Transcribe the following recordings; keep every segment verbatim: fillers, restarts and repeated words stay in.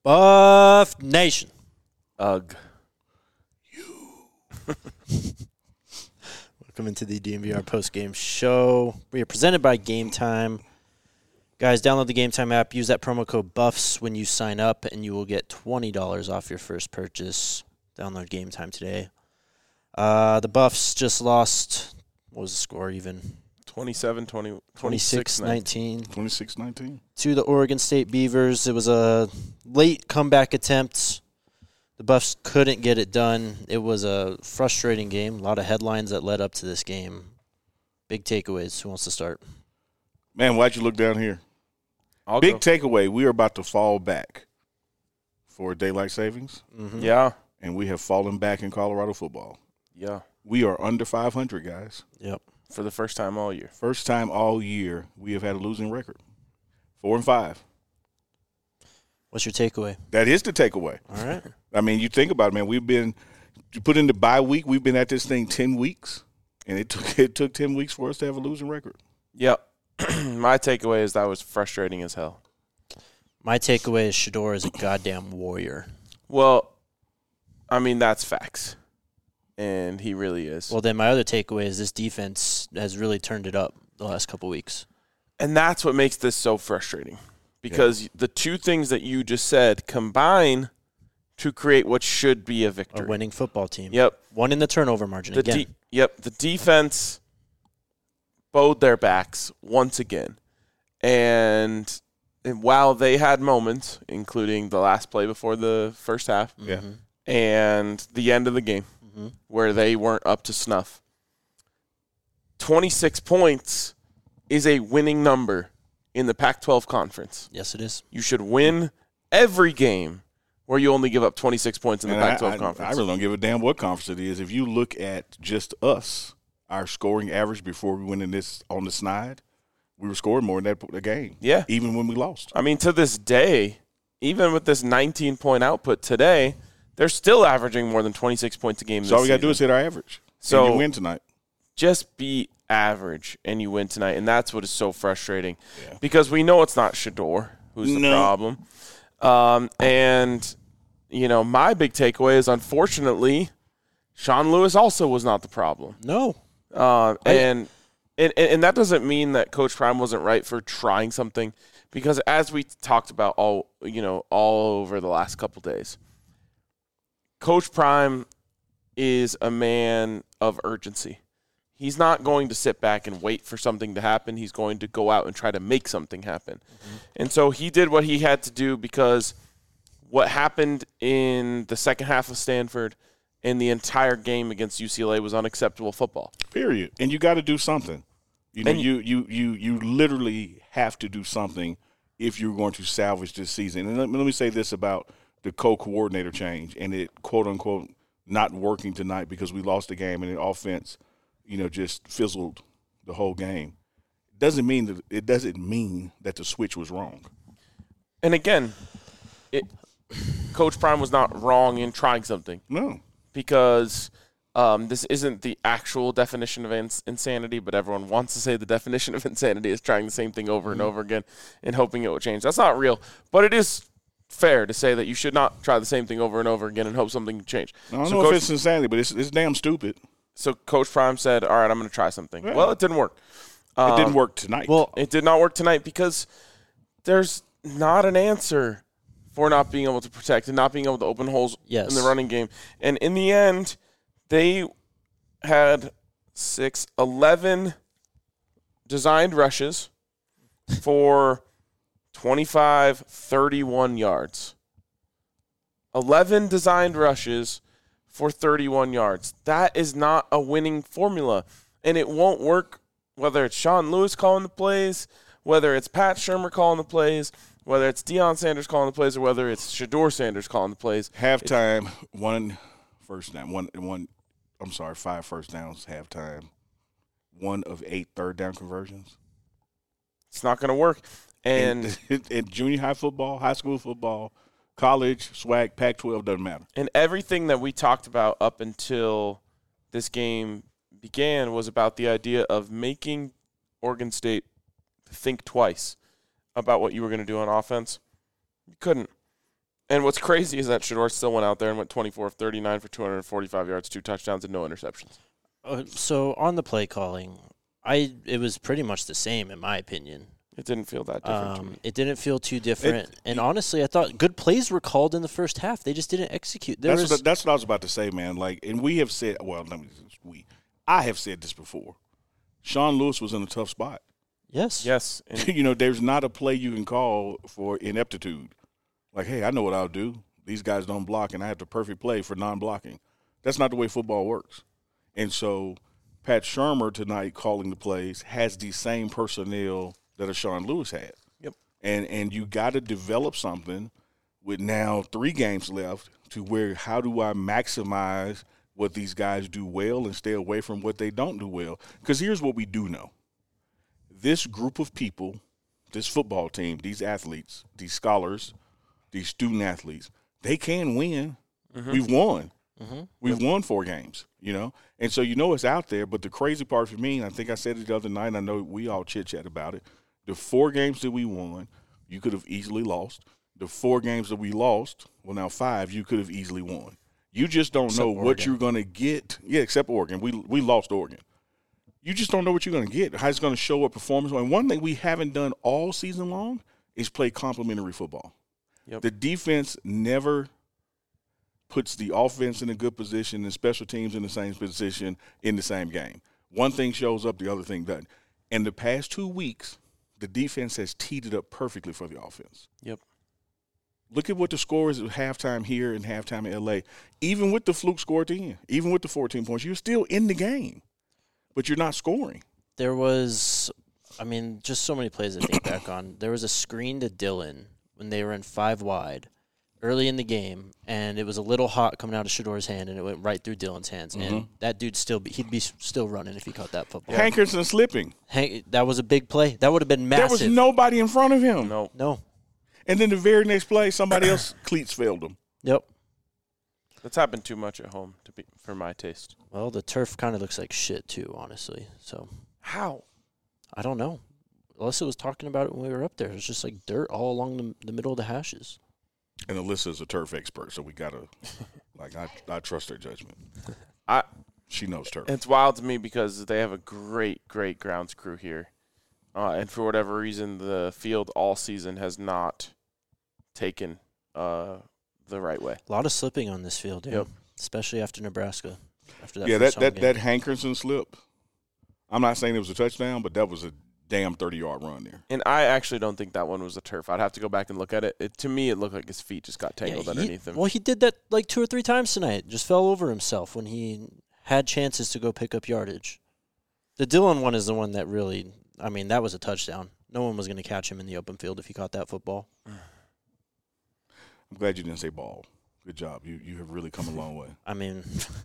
Buff Nation. Ugh. Welcome into the D M V R post-game show. We are presented by Game Time. Guys, download the Game Time app. Use that promo code BUFFS when you sign up, and you will get twenty dollars off your first purchase. Download Game Time today. Uh, the Buffs just lost. What was the score even? twenty-seven twenty, twenty-six nineteen. twenty-six nineteen. To the Oregon State Beavers. It was a late comeback attempt. The Buffs couldn't get it done. It was a frustrating game. A lot of headlines that led up to this game. Big takeaways. Who wants to start? Man, why'd you look down here? I'll Big go. takeaway, we are about to fall back for daylight savings, Mm-hmm. Yeah. and we have fallen back in Colorado football. Yeah. We are under five hundred, guys. Yep. For the first time all year. First time all year we have had a losing record. Four and five. What's your takeaway? That is the takeaway. All right. I mean, you think about it, man. We've been you put in the bye week. We've been at this thing ten weeks, and it took it took ten weeks for us to have a losing record. Yep. My takeaway is that was frustrating as hell. My takeaway is Shedeur is a goddamn warrior. Well, I mean, that's facts. And he really is. Well, then my other takeaway is this defense has really turned it up the last couple weeks. And that's what makes this so frustrating. Because yeah. the two things that you just said combine to create what should be a victory. A winning football team. Yep. One in the turnover margin the again. De- yep. The defense bowed their backs once again. And, and while they had moments, including the last play before the first half yeah. and the end of the game, mm-hmm. where they weren't up to snuff, twenty-six points is a winning number in the Pac twelve conference. Yes, it is. You should win every game where you only give up twenty-six points in the and Pac twelve I, I, conference. I really don't give a damn what conference it is. If you look at just us, our scoring average before we went in this on the snide, we were scoring more in that the game. Yeah. Even when we lost. I mean, to this day, even with this nineteen-point output today, they're still averaging more than twenty-six points a game this So all we got to do season. is hit our average. So and you win tonight. Just be average, and you win tonight. And that's what is so frustrating. Yeah. Because we know it's not Shedeur who's the No. problem. Um, and, you know, my big takeaway is, unfortunately, Sean Lewis also was not the problem. No. Uh, and, and and that doesn't mean that Coach Prime wasn't right for trying something, because as we talked about all you know all over the last couple days, Coach Prime is a man of urgency. He's not going to sit back and wait for something to happen. He's going to go out and try to make something happen. Mm-hmm. And so he did what he had to do, because what happened in the second half of Stanford and the entire game against U C L A was unacceptable football. Period. And you got to do something. You know, And- you, you you you literally have to do something if you're going to salvage this season. And let me, let me say this about the co-coordinator change and it, quote, unquote, not working tonight because we lost the game and the offense, you know, just fizzled the whole game. Doesn't mean that it doesn't mean that the switch was wrong. And again, it, Coach Prime was not wrong in trying something, No. because um, this isn't the actual definition of ins- insanity, but everyone wants to say the definition of insanity is trying the same thing over and over again and hoping it will change. That's not real, but it is fair to say that you should not try the same thing over and over again and hope something can change. I don't So know Coach, if it's insanity, but it's it's damn stupid. so Coach Prime said, all right, I'm going to try something. Yeah. Well, it didn't work. Um, It didn't work tonight. Well, It did not work tonight because there's not an answer for not being able to protect and not being able to open holes Yes. in the running game. And in the end, they had six, eleven designed rushes for twenty-five, thirty-one yards. eleven designed rushes for thirty-one yards. That is not a winning formula, and it won't work whether it's Sean Lewis calling the plays, whether it's Pat Shurmur calling the plays, whether it's Deion Sanders calling the plays, or whether it's Shedeur Sanders calling the plays. Halftime, one first down, one one. I'm sorry, five first downs. Halftime, one of eight third down conversions. It's not going to work. And in, in junior high football, high school football, college, swag, Pac twelve doesn't matter. and everything that we talked about up until this game began was about the idea of making Oregon State think twice about what you were going to do on offense. You couldn't. And what's crazy is that Shedeur still went out there and went twenty-four of thirty-nine for two hundred forty-five yards, two touchdowns, and no interceptions. Uh, so on the play calling, I it was pretty much the same in my opinion. It didn't feel that different to Um, me. it didn't feel too different. It- and honestly, I thought good plays were called in the first half. They just didn't execute. There That's was, what, that's what I was about to say, man. Like, and we have said, well, let me we, I have said this before. Sean Lewis was in a tough spot. yes. Yes. And You know, there's not a play you can call for ineptitude. Like, hey, I know what I'll do. These guys don't block, and I have the perfect play for non-blocking. That's not the way football works. And so Pat Shurmur tonight calling the plays has the same personnel that a Sean Lewis had. Yep. And and you got to develop something with now three games left to where how do I maximize what these guys do well and stay away from what they don't do well? Because here's what we do know. This group of people, this football team, these athletes, these scholars, these student athletes, they can win. Mm-hmm. We've won. Mm-hmm. We've yep. won four games, you know? And so you know it's out there, but the crazy part for me, and I think I said it the other night, and I know we all chit-chat about it, the four games that we won, you could have easily lost. The four games that we lost, well, now five, you could have easily won. You just don't except know Oregon. What you're going to get. Yeah, except Oregon. We we lost Oregon. You just don't know what you're going to get, how it's going to show up performance. And one thing we haven't done all season long is play complementary football. Yep. The defense never puts the offense in a good position and special teams in the same position in the same game. One thing shows up, the other thing doesn't. In the past two weeks, the defense has teed it up perfectly for the offense. Yep. Look at what the score is at halftime here and halftime in L A. Even with the fluke score at the end, even with the fourteen points, you're still in the game, but you're not scoring. There was, I mean, just so many plays to think back on. There was a screen to Dylan when they were in five wide early in the game, and it was a little hot coming out of Shedeur's hand, and it went right through Dylan's hands. Mm-hmm. And that dude still be, he'd be still running if he caught that football. Hankerson slipping. Hank, that was a big play. That would have been massive. There was nobody in front of him. No. No. And then the very next play, somebody else cleats failed him. Yep. That's happened too much at home to be for my taste. Well, the turf kind of looks like shit too, honestly. So how? I don't know. Alyssa was talking about it when we were up there. It was just like dirt all along the, the middle of the hashes. And Alyssa's a turf expert, so we gotta like I I trust her judgment. I she knows turf. It's wild to me because they have a great, great grounds crew here. Uh, and for whatever reason, the field all season has not taken uh, the right way. A lot of slipping on this field, yeah. Yep. Especially after Nebraska. After that yeah, first that, that, game. that Hankerson slip, I'm not saying it was a touchdown, but that was a damn thirty-yard run there. And I actually don't think that one was a turf. I'd have to go back and look at it. it to me, it looked like his feet just got tangled yeah, he, underneath him. Well, he did that like two or three times tonight. Just fell over himself when he had chances to go pick up yardage. The Dylan one is the one that really – I mean, that was a touchdown. No one was going to catch him in the open field if he caught that football. I'm glad you didn't say ball. Good job. You you have really come a long way. I mean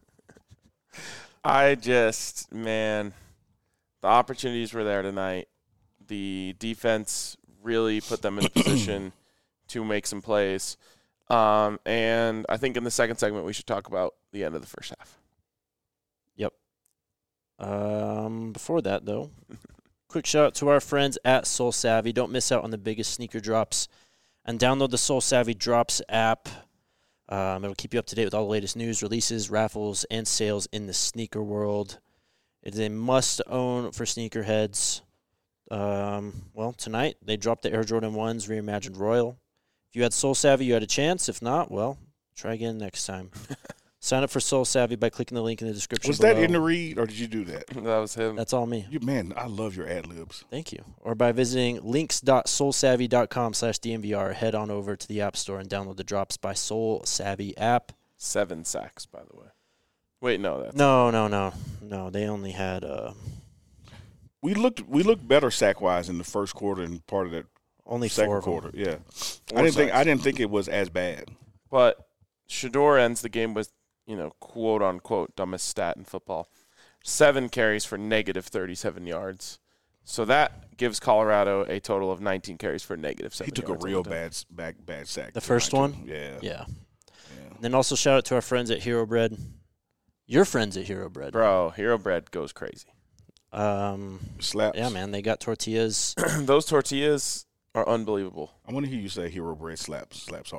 – I just – man, the opportunities were there tonight. The defense really put them in a position to make some plays. Um, and I think in the second segment we should talk about the end of the first half. Yep. Um, before that, though – quick shout out to our friends at Soul Savvy. Don't miss out on the biggest sneaker drops. And download the Soul Savvy Drops app. Um, it'll keep you up to date with all the latest news, releases, raffles, and sales in the sneaker world. It is a must-own for sneakerheads. Um, well, tonight they dropped the Air Jordan ones, reimagined Royal. If you had Soul Savvy, you had a chance. If not, well, try again next time. Sign up for Soul Savvy by clicking the link in the description Was below. that in the read, or did you do that? That was him. That's all me. You, man, I love your ad-libs. Thank you. Or by visiting links.soulsavvy.com slash DNVR. Head on over to the App Store and download the Drops by Soul Savvy app. Seven sacks, by the way. Wait, no. That's no, no, no. No, they only had uh, – We looked we looked better sack-wise in the first quarter and part of that only second four quarter. Of Yeah. Four I didn't sacks. think I didn't think it was as bad. But Shedeur ends the game with, you know, quote unquote, dumbest stat in football. Seven carries for negative thirty-seven yards. So that gives Colorado a total of nineteen carries for negative seven He took yards a real bad back bad sack. The first one? Yeah. Yeah. Yeah. And then also shout out to our friends at Hero Bread. Your friends at Hero Bread. Bro, Hero Bread goes crazy. Um, Slaps. yeah, man. They got tortillas. Those tortillas are unbelievable. I want to hear you say Hero Bread slaps slaps hard.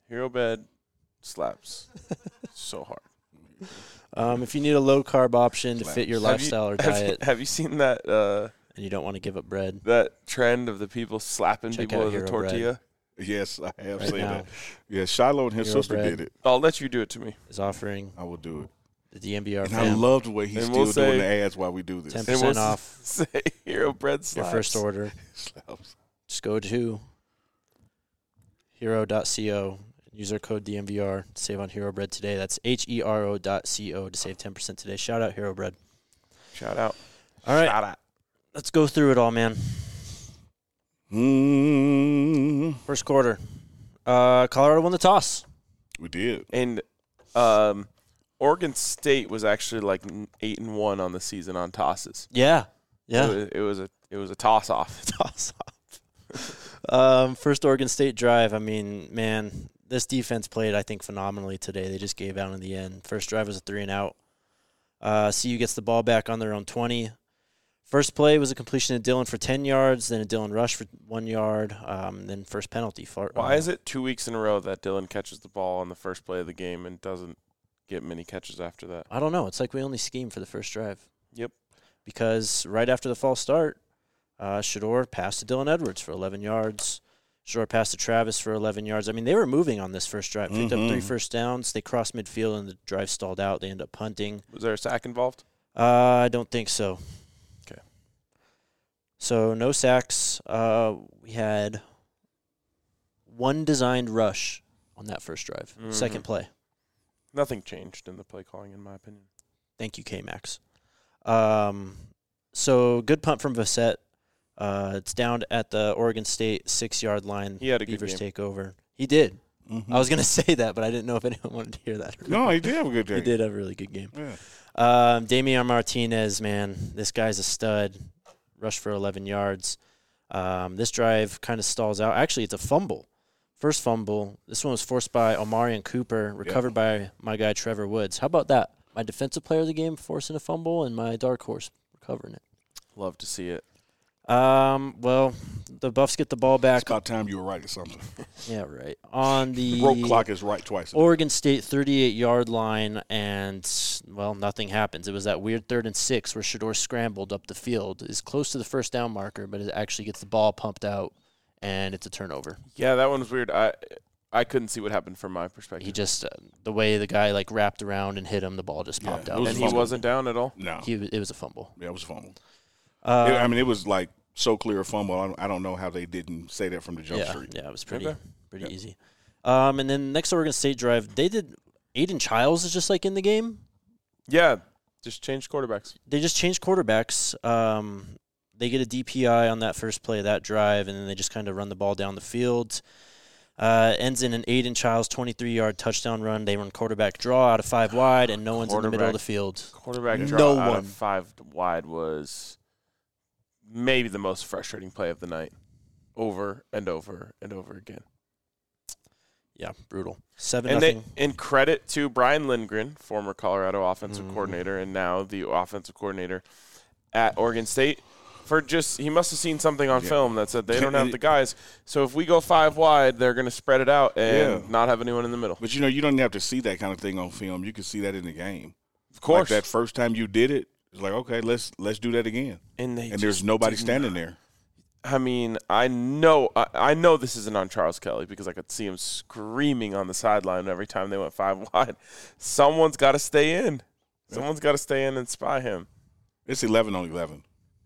Hero Bread slaps so hard. Um, if you need a low-carb option to fit your Have you- lifestyle or have you- diet Have you seen that uh, and you don't want to give up bread, that trend of the people slapping Check people out with a Hero tortilla? Yes, I have right seen now that. Yeah, Shiloh and his Hero sister Bread. did it. I'll let you do it to me. is offering I will do it. the D M V R And I fam love the way he's And still we'll doing say- the ads while we do this. ten And percent we'll off Say Hero Bread your slaps. first order. Slaps. Just go to hero dot co. Use our code D M V R to save on Hero Bread today. That's H E R O dot co to save ten percent today. Shout out Hero Bread. Shout out. All right, Shout out. let's go through it all, man. Mm, First quarter. Uh, Colorado won the toss. we did. And um, Oregon State was actually like n- eight and one on the season on tosses. Yeah. It Yeah. was, it was a it was a toss off. Toss off. um, first Oregon State drive. I mean, man, this defense played, I think, phenomenally today. They just gave out in the end. First drive was a three and out. Uh, C U gets the ball back on their own twenty. First play was a completion of Dillon for ten yards, then a Dillon rush for one yard, um, then first penalty. For, Why uh, is it two weeks in a row that Dillon catches the ball on the first play of the game and doesn't get many catches after that? I don't know. It's like we only scheme for the first drive. Yep. Because right after the false start, uh, Shador passed to Dylan Edwards for eleven yards. Shador passed to Travis for eleven yards. I mean, they were moving on this first drive. Picked Mhm. up three first downs. They crossed midfield, and the drive stalled out. They ended up punting. Was there a sack involved? Uh, I don't think so. Okay. So no sacks. Uh, we had one designed rush on that first drive. Mhm. Second play. Nothing changed in the play calling, in my opinion. Thank you, K-Max. Um, so good punt from Vassett. Uh, it's down at the Oregon State six-yard line. He had a good Beavers game. take over. He did. Mhm. I was going to say that, but I didn't know if anyone wanted to hear that. or No, not. he did have a good day. He did have a really good game. Yeah. Um, Damian Martinez, man, this guy's a stud. Rushed for eleven yards. Um, this drive kind of stalls out. Actually, it's a fumble. First fumble. This one was forced by Omarion Cooper, recovered by my guy Trevor Woods. How about that? My defensive player of the game forcing a fumble, and my dark horse recovering it. Love to see it. Um, well, the Buffs get the ball It's back. about time you were right or something. Yeah, right. On the Rope clock is right twice. a day. Oregon State thirty-eight-yard line, and, well, nothing happens. It was that weird third and six where Shador scrambled up the field. Is close to the first down marker, but it actually gets the ball pumped out, and it's a turnover. Yeah, that one was weird. I I couldn't see what happened from my perspective. He just, uh, the way the guy, like, wrapped around and hit him, the ball just Yeah, popped it out. was and a he fumble. wasn't down at all. No. He, it was a fumble. Yeah, it was a fumble. Uh, It- I mean, it was like so clear a fumble. I don't, I don't know how they didn't say that from the jump yeah, street. yeah, it was pretty, Okay. pretty Yeah. easy. Um, and then next Oregon State drive, they did Aiden Childs is just like in the game. Yeah, just changed quarterbacks. They just changed quarterbacks. Um, they get a D P I on that first play of that drive, and then they just kind of run the ball down the field. Uh, ends in an Aiden Childs twenty-three-yard touchdown run. They run quarterback draw out of five wide, and no one's in the middle of the Quarterback. field. Quarterback Yeah. draw No out one. of five wide was maybe the most frustrating play of the night, over and over and over again. Yeah, brutal. Seven And they, nothing. in credit to Brian Lindgren, former Colorado offensive Mhm. coordinator and now the offensive coordinator at Oregon State, for just he must have seen something on Yeah. film that said they don't have the guys. So if we go five wide, they're going to spread it out and Yeah. not have anyone in the middle. But, you know, you don't have to see that kind of thing on film. You can see that in the game. Of course, Like that first time you did it, it's like, okay, let's let's do that again. and they And there's just nobody did standing not- there. I mean, I know, I, I know this isn't on Charles Kelly because I could see him screaming on the sideline every time they went five wide. Someone's got to stay in. Someone's got to stay in and spy him. It's eleven on eleven.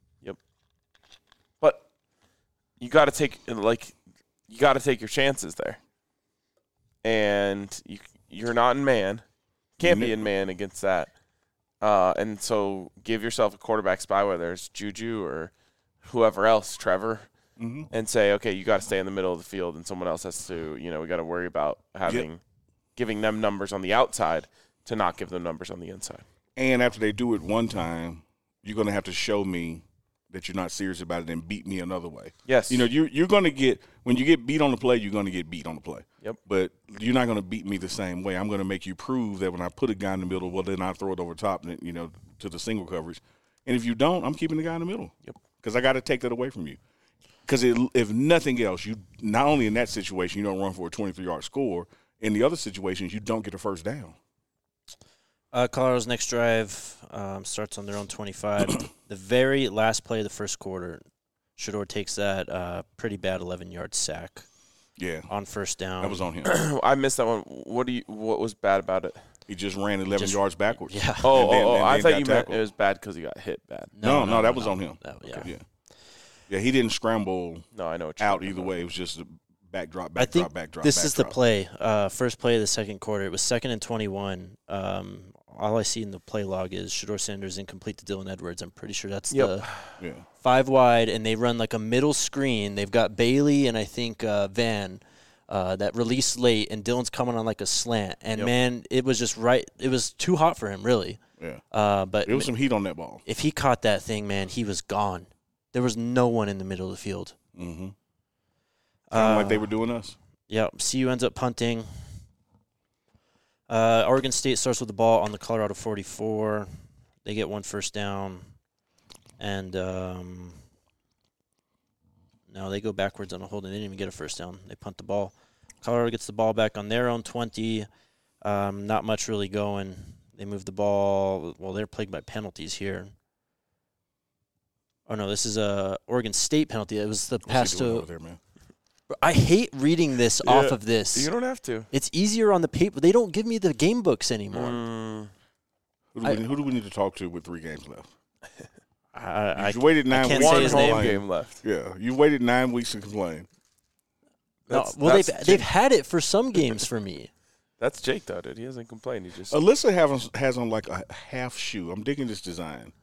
But you got to take like you got to take your chances there, and you you're not in man, can't be in man against that, uh, and so give yourself a quarterback spy, whether it's Juju or whoever else, Trevor, Mm-hmm. and say, okay, you got to stay in the middle of the field, and someone else has to, you know, we got to worry about having Yep. giving them numbers on the outside to not give them numbers on the inside. And after they do it one time, you're going to have to show me that you're not serious about it and beat me another way. Yes, You know, you, you're going to get – when you get beat on the play, you're going to get beat on the play. Yep. But you're not going to beat me the same way. I'm going to make you prove that when I put a guy in the middle, well, then I throw it over top, and, you know, to the single coverage. And if you don't, I'm keeping the guy in the middle. Yep. Because I got to take that away from you. Because if nothing else, you not only in that situation, you don't run for a twenty-three-yard score, in the other situations, you don't get a first down. Uh, Colorado's next drive um, starts on their own twenty-five. The very last play of the first quarter, Shedeur takes that uh, pretty bad eleven-yard sack. Yeah, on first down. That was on him. I missed that one. What do you? What was bad about it? He just ran eleven just, yards backwards. Yeah. Oh, then, oh, oh I thought you tackled. meant it was bad because he got hit bad. No, no, no, no that no, was no. on him. That, yeah. Okay. yeah, yeah. He didn't scramble. No, I know what you're out talking either about. way. It was just a backdrop, I backdrop, think backdrop. this backdrop. is the play. Uh, first play of the second quarter. It was second and twenty-one. Um, all I see in the play log is Shedeur Sanders incomplete to Dylan Edwards. I'm pretty sure that's Yep. the Yeah. five wide, and they run like a middle screen. They've got Bailey and I think uh, Van uh, that released late, and Dylan's coming on like a slant. And, Yep. man, it was just right. It was too hot for him, really. Yeah. Uh, but There was some heat on that ball. if he caught that thing, man, he was gone. There was no one in the middle of the field. Mm-hmm. Kind of Uh, like they were doing us. Yeah, C U ends up punting. Uh, Oregon State starts with the ball on the Colorado forty-four. They get one first down. And um, no, they go backwards on a hold, and they didn't even get a first down. They punt the ball. Colorado gets the ball back on their own twenty. Um, not much really going. They move the ball. Well, they're plagued by penalties here. Oh, no, this is a Oregon State penalty. It was the What's pass he doing to over there, man? I hate reading this Yeah, off of this. You don't have to. It's easier on the paper. They don't give me the game books anymore. Mm, Who do, I- we, who do we need to talk to with three games left? I, You waited nine can't weeks. say one to his home name. complain. game left. Yeah, you waited nine weeks to complain. no, That's, well, that's they've Jake, they've had it for some games for me. That's Jake though, dude. He hasn't complained. He just Alyssa has, has on like a half shoe. I'm digging this design.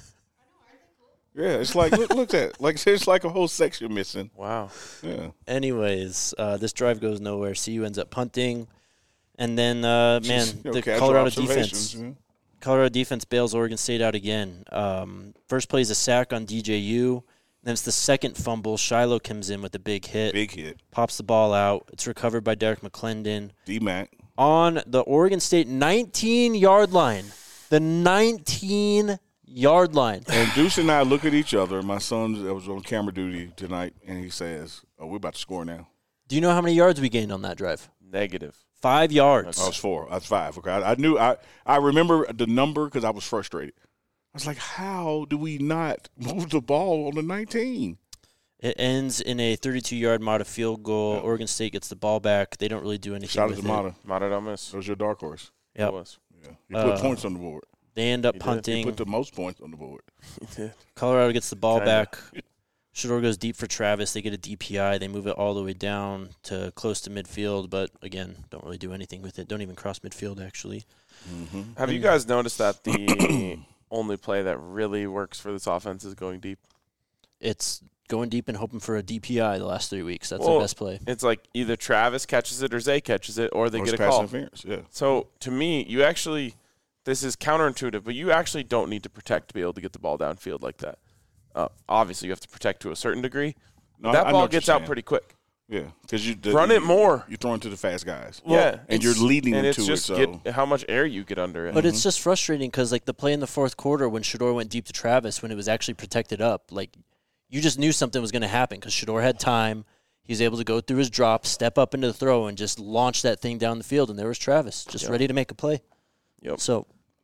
Yeah, it's like look, look at it. Like there's like a whole section missing. wow. Yeah, Anyways, uh, this drive goes nowhere. C U ends up punting, and then uh, man, Just, you know, the casual Colorado observations, defense. you know. Colorado defense bails Oregon State out again. Um, first play is a sack on D J U. Then it's the second fumble. Shiloh comes in with a big hit, Big hit. pops the ball out. It's recovered by Derek McClendon. D-Mac. On the Oregon State nineteen-yard line. The nineteen-yard line. And Deuce and I look at each other. My son that was on camera duty tonight, and he says, "Oh, we're about to score now." Do you know how many yards we gained on that drive? Negative. Five yards. I was four. I was five. Okay, I, I knew. I I remember the number because I was frustrated. I was like, "How do we not move the ball on the nineteen?" It ends in a thirty-two-yard Mata field goal. Yeah. Oregon State gets the ball back. They don't really do anything Shout out with to it. Mata. Mata don't miss. That was your dark horse. Yep. It was. Yeah, he put Uh, points on the board. They end up He did. He He punting. put the most points on the board. He did. Colorado gets the ball Kinda. back. Shedeur goes deep for Travis. They get a D P I. They move it all the way down to close to midfield, but again, don't really do anything with it. Don't even cross midfield, actually. Mm-hmm. Have you guys noticed that the only play that really works for this offense is going deep? It's going deep and hoping for a D P I the last three weeks. That's Well, the best play. It's like either Travis catches it or Zay catches it, or they Or get a it's pass call. interference. Yeah. So to me, you actually, this is counterintuitive, but you actually don't need to protect to be able to get the ball downfield like that. Uh, obviously, you have to protect to a certain degree. No, that I know ball what you're gets out saying. pretty quick. Yeah, because you the, Run it you- more. You're throwing to the fast guys. yeah, and you're it's- leading and them it's to it, just so- get how much air you get under it. But it's just frustrating because, like, the play in the fourth quarter when Shedeur went deep to Travis, when it was actually protected up, like, you just knew something was going to happen because Shedeur had time. He was able to go through his drop, step up into the throw, and just launch that thing down the field. And there was Travis, just Yep. ready to make a play. Yep. So,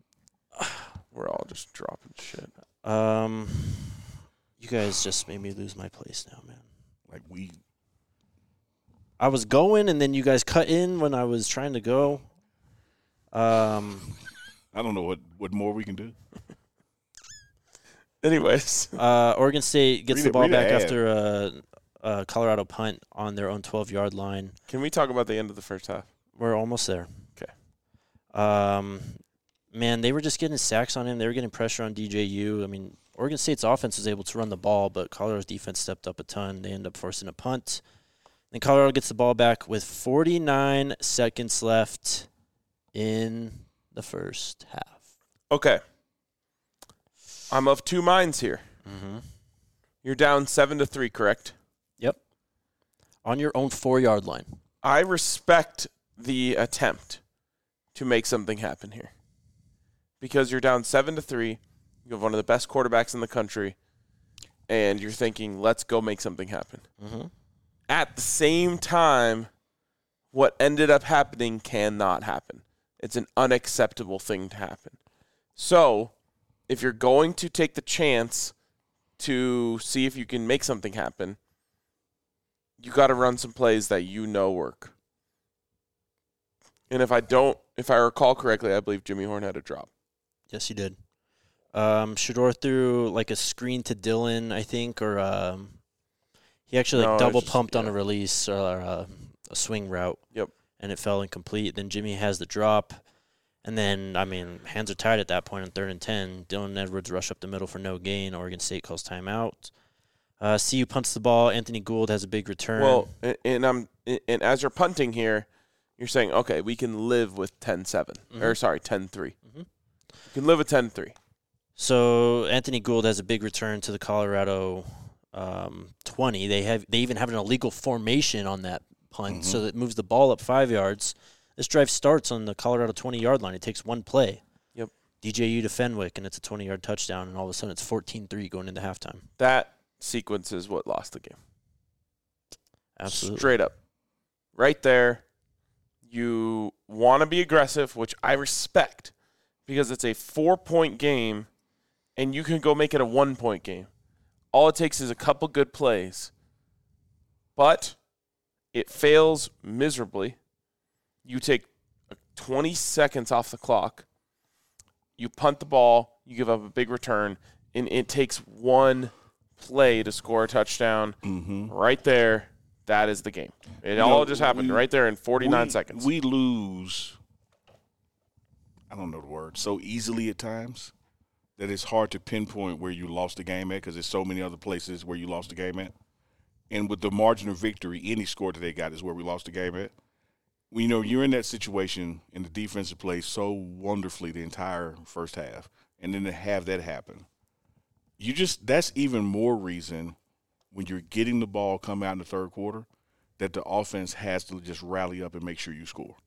We're all just dropping shit. um, you guys just made me lose my place now, man. Like we. I was going, and then you guys cut in when I was trying to go. Um, I don't know what, what more we can do. Anyways, uh, Oregon State gets Read the it- ball read the back ad. after a, a Colorado punt on their own twelve-yard line. can we talk about the end of the first half? We're almost there. Okay. Um, man, they were just getting sacks on him. They were getting pressure on D J U. I mean, Oregon State's offense was able to run the ball, but Colorado's defense stepped up a ton. They end up forcing a punt. Then Colorado gets the ball back with forty-nine seconds left in the first half. Okay. I'm of two minds here. Mm-hmm. You're down seven to three, correct? Yep. On your own four-yard line. I respect the attempt to make something happen here, because you're down seven to three. You have one of the best quarterbacks in the country, and you're thinking, "Let's go make something happen." Mm-hmm. At the same time, what ended up happening cannot happen. It's an unacceptable thing to happen. So, if you're going to take the chance to see if you can make something happen, you got to run some plays that you know work. And if I don't, if I recall correctly, I believe Jimmy Horn had a drop. Yes, he did. Um, Shedeur threw like a screen to Dylan, I think, or um, he actually like No, double just- pumped on yeah. a release or uh, a swing route. Yep. And it fell incomplete. Then Jimmy has the drop. And then, I mean, hands are tied at that point on third and ten. Dylan Edwards rush up the middle for no gain. Oregon State calls timeout. Uh, C U punts the ball. Anthony Gould has a big return. Well, and, and I'm and as you're punting here, you're saying, okay, we can live with ten seven. Mhm. Or, sorry, ten three. Mhm. You can live with ten three. So Anthony Gould has a big return to the Colorado um, twenty. They have they even have an illegal formation on that punt, Mhm. so that moves the ball up five yards. This drive starts on the Colorado twenty-yard line. It takes one play. Yep. D J U to Fenwick, and it's a twenty-yard touchdown, and all of a sudden it's fourteen three going into halftime. That sequence is what lost the game. Absolutely. Straight up. Right there. You want to be aggressive, which I respect, because it's a four-point game, and you can go make it a one-point game. All it takes is a couple good plays. But it fails miserably. You take twenty seconds off the clock. You punt the ball. You give up a big return. And it takes one play to score a touchdown. Mm-hmm. Right there, that is the game. It You all know, just happened we- right there in forty-nine we, seconds. We lose, I don't know the word, so easily at times that it's hard to pinpoint where you lost the game at because there's so many other places where you lost the game at. And with the margin of victory, any score that they got is where we lost the game at. You know, you're in that situation and the defensive plays so wonderfully the entire first half, and then to have that happen. You just, that's even more reason when you're getting the ball come out in the third quarter that the offense has to just rally up and make sure you score.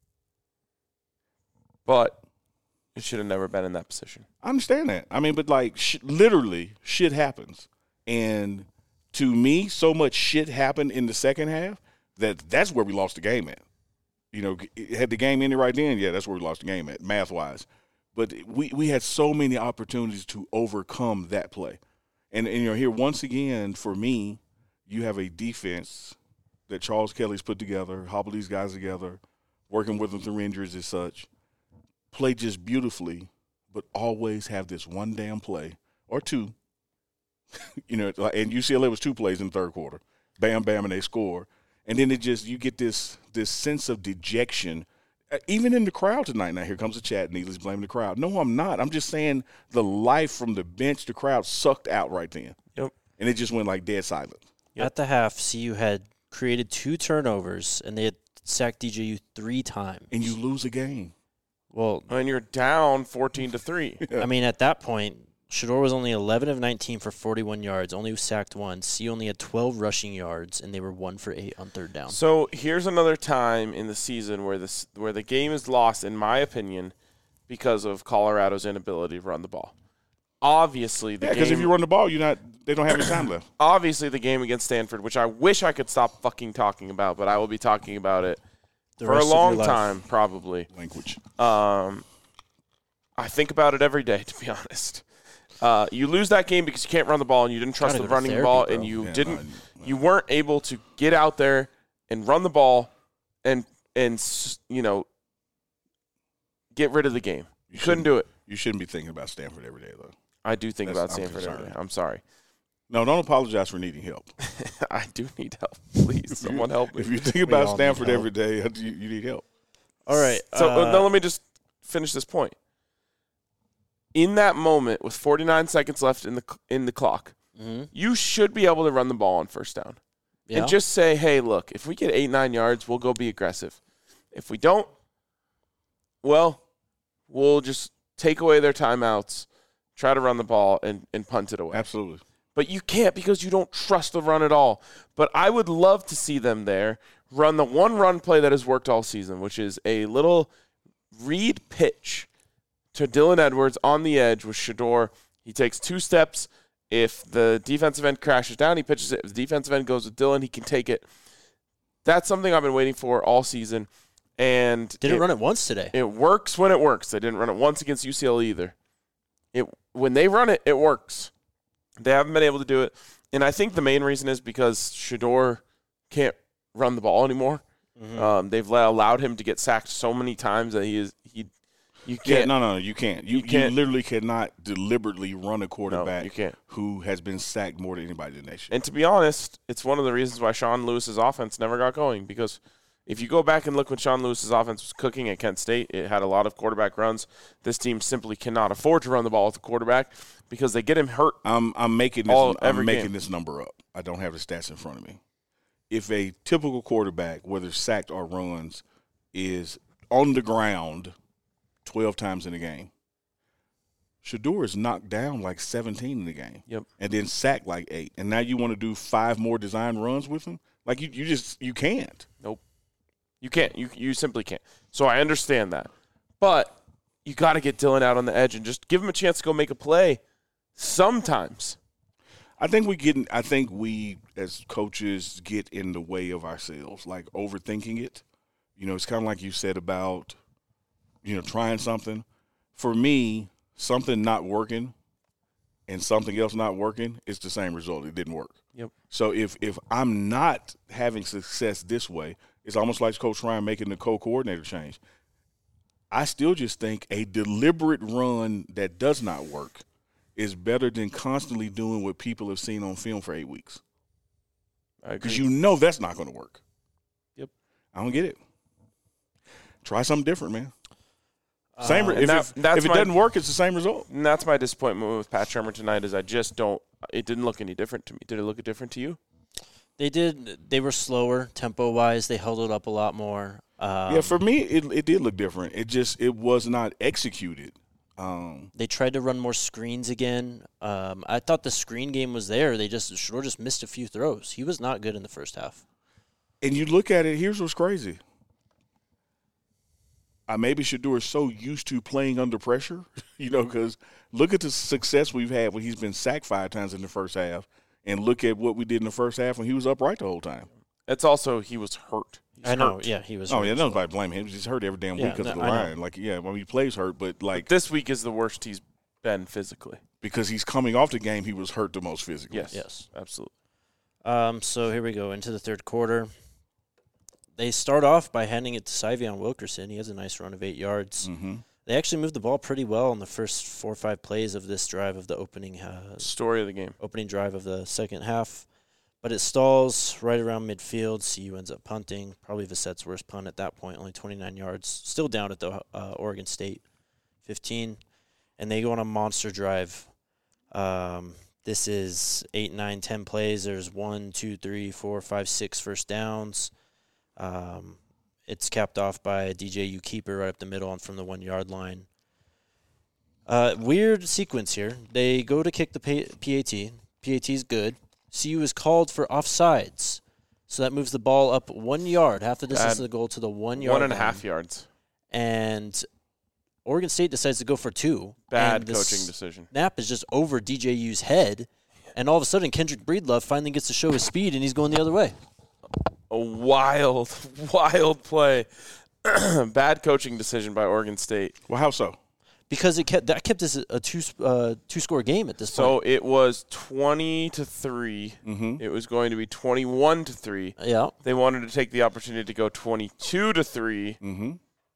But it should have never been in that position. I understand that. I mean, but like sh- literally shit happens. And to me, so much shit happened in the second half that that's where we lost the game at. You know, had the game ended right then, yeah, that's where we lost the game at, math-wise. But we, we had so many opportunities to overcome that play. And, and, you know, here, once again, for me, you have a defense that Charles Kelly's put together, hobbled these guys together, working with them through injuries and such, play just beautifully, but always have this one damn play or two. You know, and U C L A was two plays in the third quarter. Bam, bam, and they score. And then it just, you get this this sense of dejection, uh, even in the crowd tonight. Now, here comes the chat. Neely's blaming the crowd. No, I'm not. I'm just saying the life from the bench, the crowd sucked out right then. Yep. And it just went like dead silent. Yep. At the half, C U had created two turnovers, and they had sacked D J U three times. And you lose a game. Well, And you're down fourteen to three. I mean, at that point, Shedeur was only eleven of nineteen for forty-one yards, only sacked once. C U only had twelve rushing yards, and they were one for eight on third down. So here's another time in the season where this where the game is lost, in my opinion, because of Colorado's inability to run the ball. Obviously, the Yeah, because game. if you run the ball, you're not. They don't have any time left. obviously, the game against Stanford, which I wish I could stop fucking talking about, but I will be talking about it The for a rest of your long life. time, probably. Language. Um, I think about it every day, to be honest. Uh, you lose that game because you can't run the ball and you didn't trust Gotta the go to running therapy, ball bro. and you Yeah, didn't. no, no. You weren't able to get out there and run the ball and and s- you know get rid of the game. You couldn't do it. You shouldn't be thinking about Stanford every day, though. I do think That's- about I'm Stanford every day. concerned. I'm sorry. No, don't apologize for needing help. I do need help. Please, someone help me. If you think We about all need Stanford help. every day, you, you need help. All right. So uh, uh, now let me just finish this point. In that moment, with forty-nine seconds left in the in the clock, mhm. you should be able to run the ball on first down. Yeah. And just say, hey, look, if we get eight, nine yards, we'll go be aggressive. If we don't, well, we'll just take away their timeouts, try to run the ball, and, and punt it away. Absolutely. But you can't because you don't trust the run at all. But I would love to see them there run the one run play that has worked all season, which is a little read pitch to Dylan Edwards on the edge with Shedeur. He takes two steps. If the defensive end crashes down, he pitches it. If the defensive end goes with Dylan, he can take it. That's something I've been waiting for all season. And Didn't it, run it once today. It works when it works. They didn't run it once against U C L A either. It when they run it, it works. They haven't been able to do it. And I think the main reason is because Shedeur can't run the ball anymore. Mm-hmm. Um, they've allowed him to get sacked so many times that he is he. You can't. Yeah, no, no, you can't. You, you, can't. you literally cannot deliberately run a quarterback no, you can't. who has been sacked more than anybody in the nation. And to be honest, it's one of the reasons why Sean Lewis's offense never got going. Because if you go back and look when Sean Lewis's offense was cooking at Kent State, it had a lot of quarterback runs. This team simply cannot afford to run the ball with the quarterback because they get him hurt. I'm I'm making this all, I'm making game. this number up. I don't have the stats in front of me. If a typical quarterback, whether sacked or runs, is on the ground twelve times in a game, Shedeur is knocked down like seventeen in the game. Yep. And then sacked like eight. And now you want to do five more design runs with him? Like, you, you just – you can't. Nope. You can't. You you simply can't. So I understand that. But you got to get Dylan out on the edge and just give him a chance to go make a play sometimes. I think we get – I think we as coaches get in the way of ourselves, like overthinking it. You know, it's kind of like you said about – you know, trying something. For me, something not working and something else not working, it's the same result. It didn't work. Yep. So if if I'm not having success this way, it's almost like Coach Ryan making the co-coordinator change. I still just think a deliberate run that does not work is better than constantly doing what people have seen on film for eight weeks. Because you know that's not going to work. Yep. I don't get it. Try something different, man. Same. Uh, if that, it, if it my, doesn't work, it's the same result. And that's my disappointment with Pat Shurmur tonight is I just don't – it didn't look any different to me. Did it look different to you? They did. They were slower tempo-wise. They held it up a lot more. Um, yeah, for me, it it did look different. It just – it was not executed. Um, they tried to run more screens again. Um, I thought the screen game was there. They just – Shedeur just missed a few throws. He was not good in the first half. And you look at it, here's what's crazy. Uh, maybe Shedeur is so used to playing under pressure, you know, because look at the success we've had when he's been sacked five times in the first half, and look at what we did in the first half when he was upright the whole time. It's also he was hurt. He's I know, hurt. yeah, he was Oh, hurt yeah, nobody blame him. He's hurt every damn week yeah, because no, of the I line. know. Like, yeah, when he plays hurt, but, like. But this week is the worst he's been physically. Because he's coming off the game, he was hurt the most physically. Yes, yes. Absolutely. Um, so here we go into the third quarter. They start off by handing it to Syvion Wilkerson. He has a nice run of eight yards. Mm-hmm. They actually moved the ball pretty well in the first four or five plays of this drive of the opening uh, story of the game. Opening drive of the second half. But it stalls right around midfield. C U ends up punting. Probably Vissett's worst punt at that point, only twenty-nine yards. Still down at the uh, Oregon State fifteen. And they go on a monster drive. Um, this is eight, nine, ten plays. There's one, two, three, four, five, six first downs. Um, it's capped off by a D J U keeper right up the middle and from the one-yard line. Uh, weird sequence here. They go to kick the P A T. P A T's good. C U is called for offsides. So that moves the ball up one yard, half the distance Bad. of the goal to the one-yard One and a line. half yards. And Oregon State decides to go for two. Bad and the coaching decision. Snap is just over D J U's head. And all of a sudden, Kendrick Breedlove finally gets to show his speed, and he's going the other way. A wild, wild play. Bad coaching decision by Oregon State. Well, how so? Because it kept that kept this a two uh, two score game at this so point. So it was twenty to three. Mm-hmm. It was going to be twenty one to three. Yeah. They wanted to take the opportunity to go twenty two to three. Mm-hmm.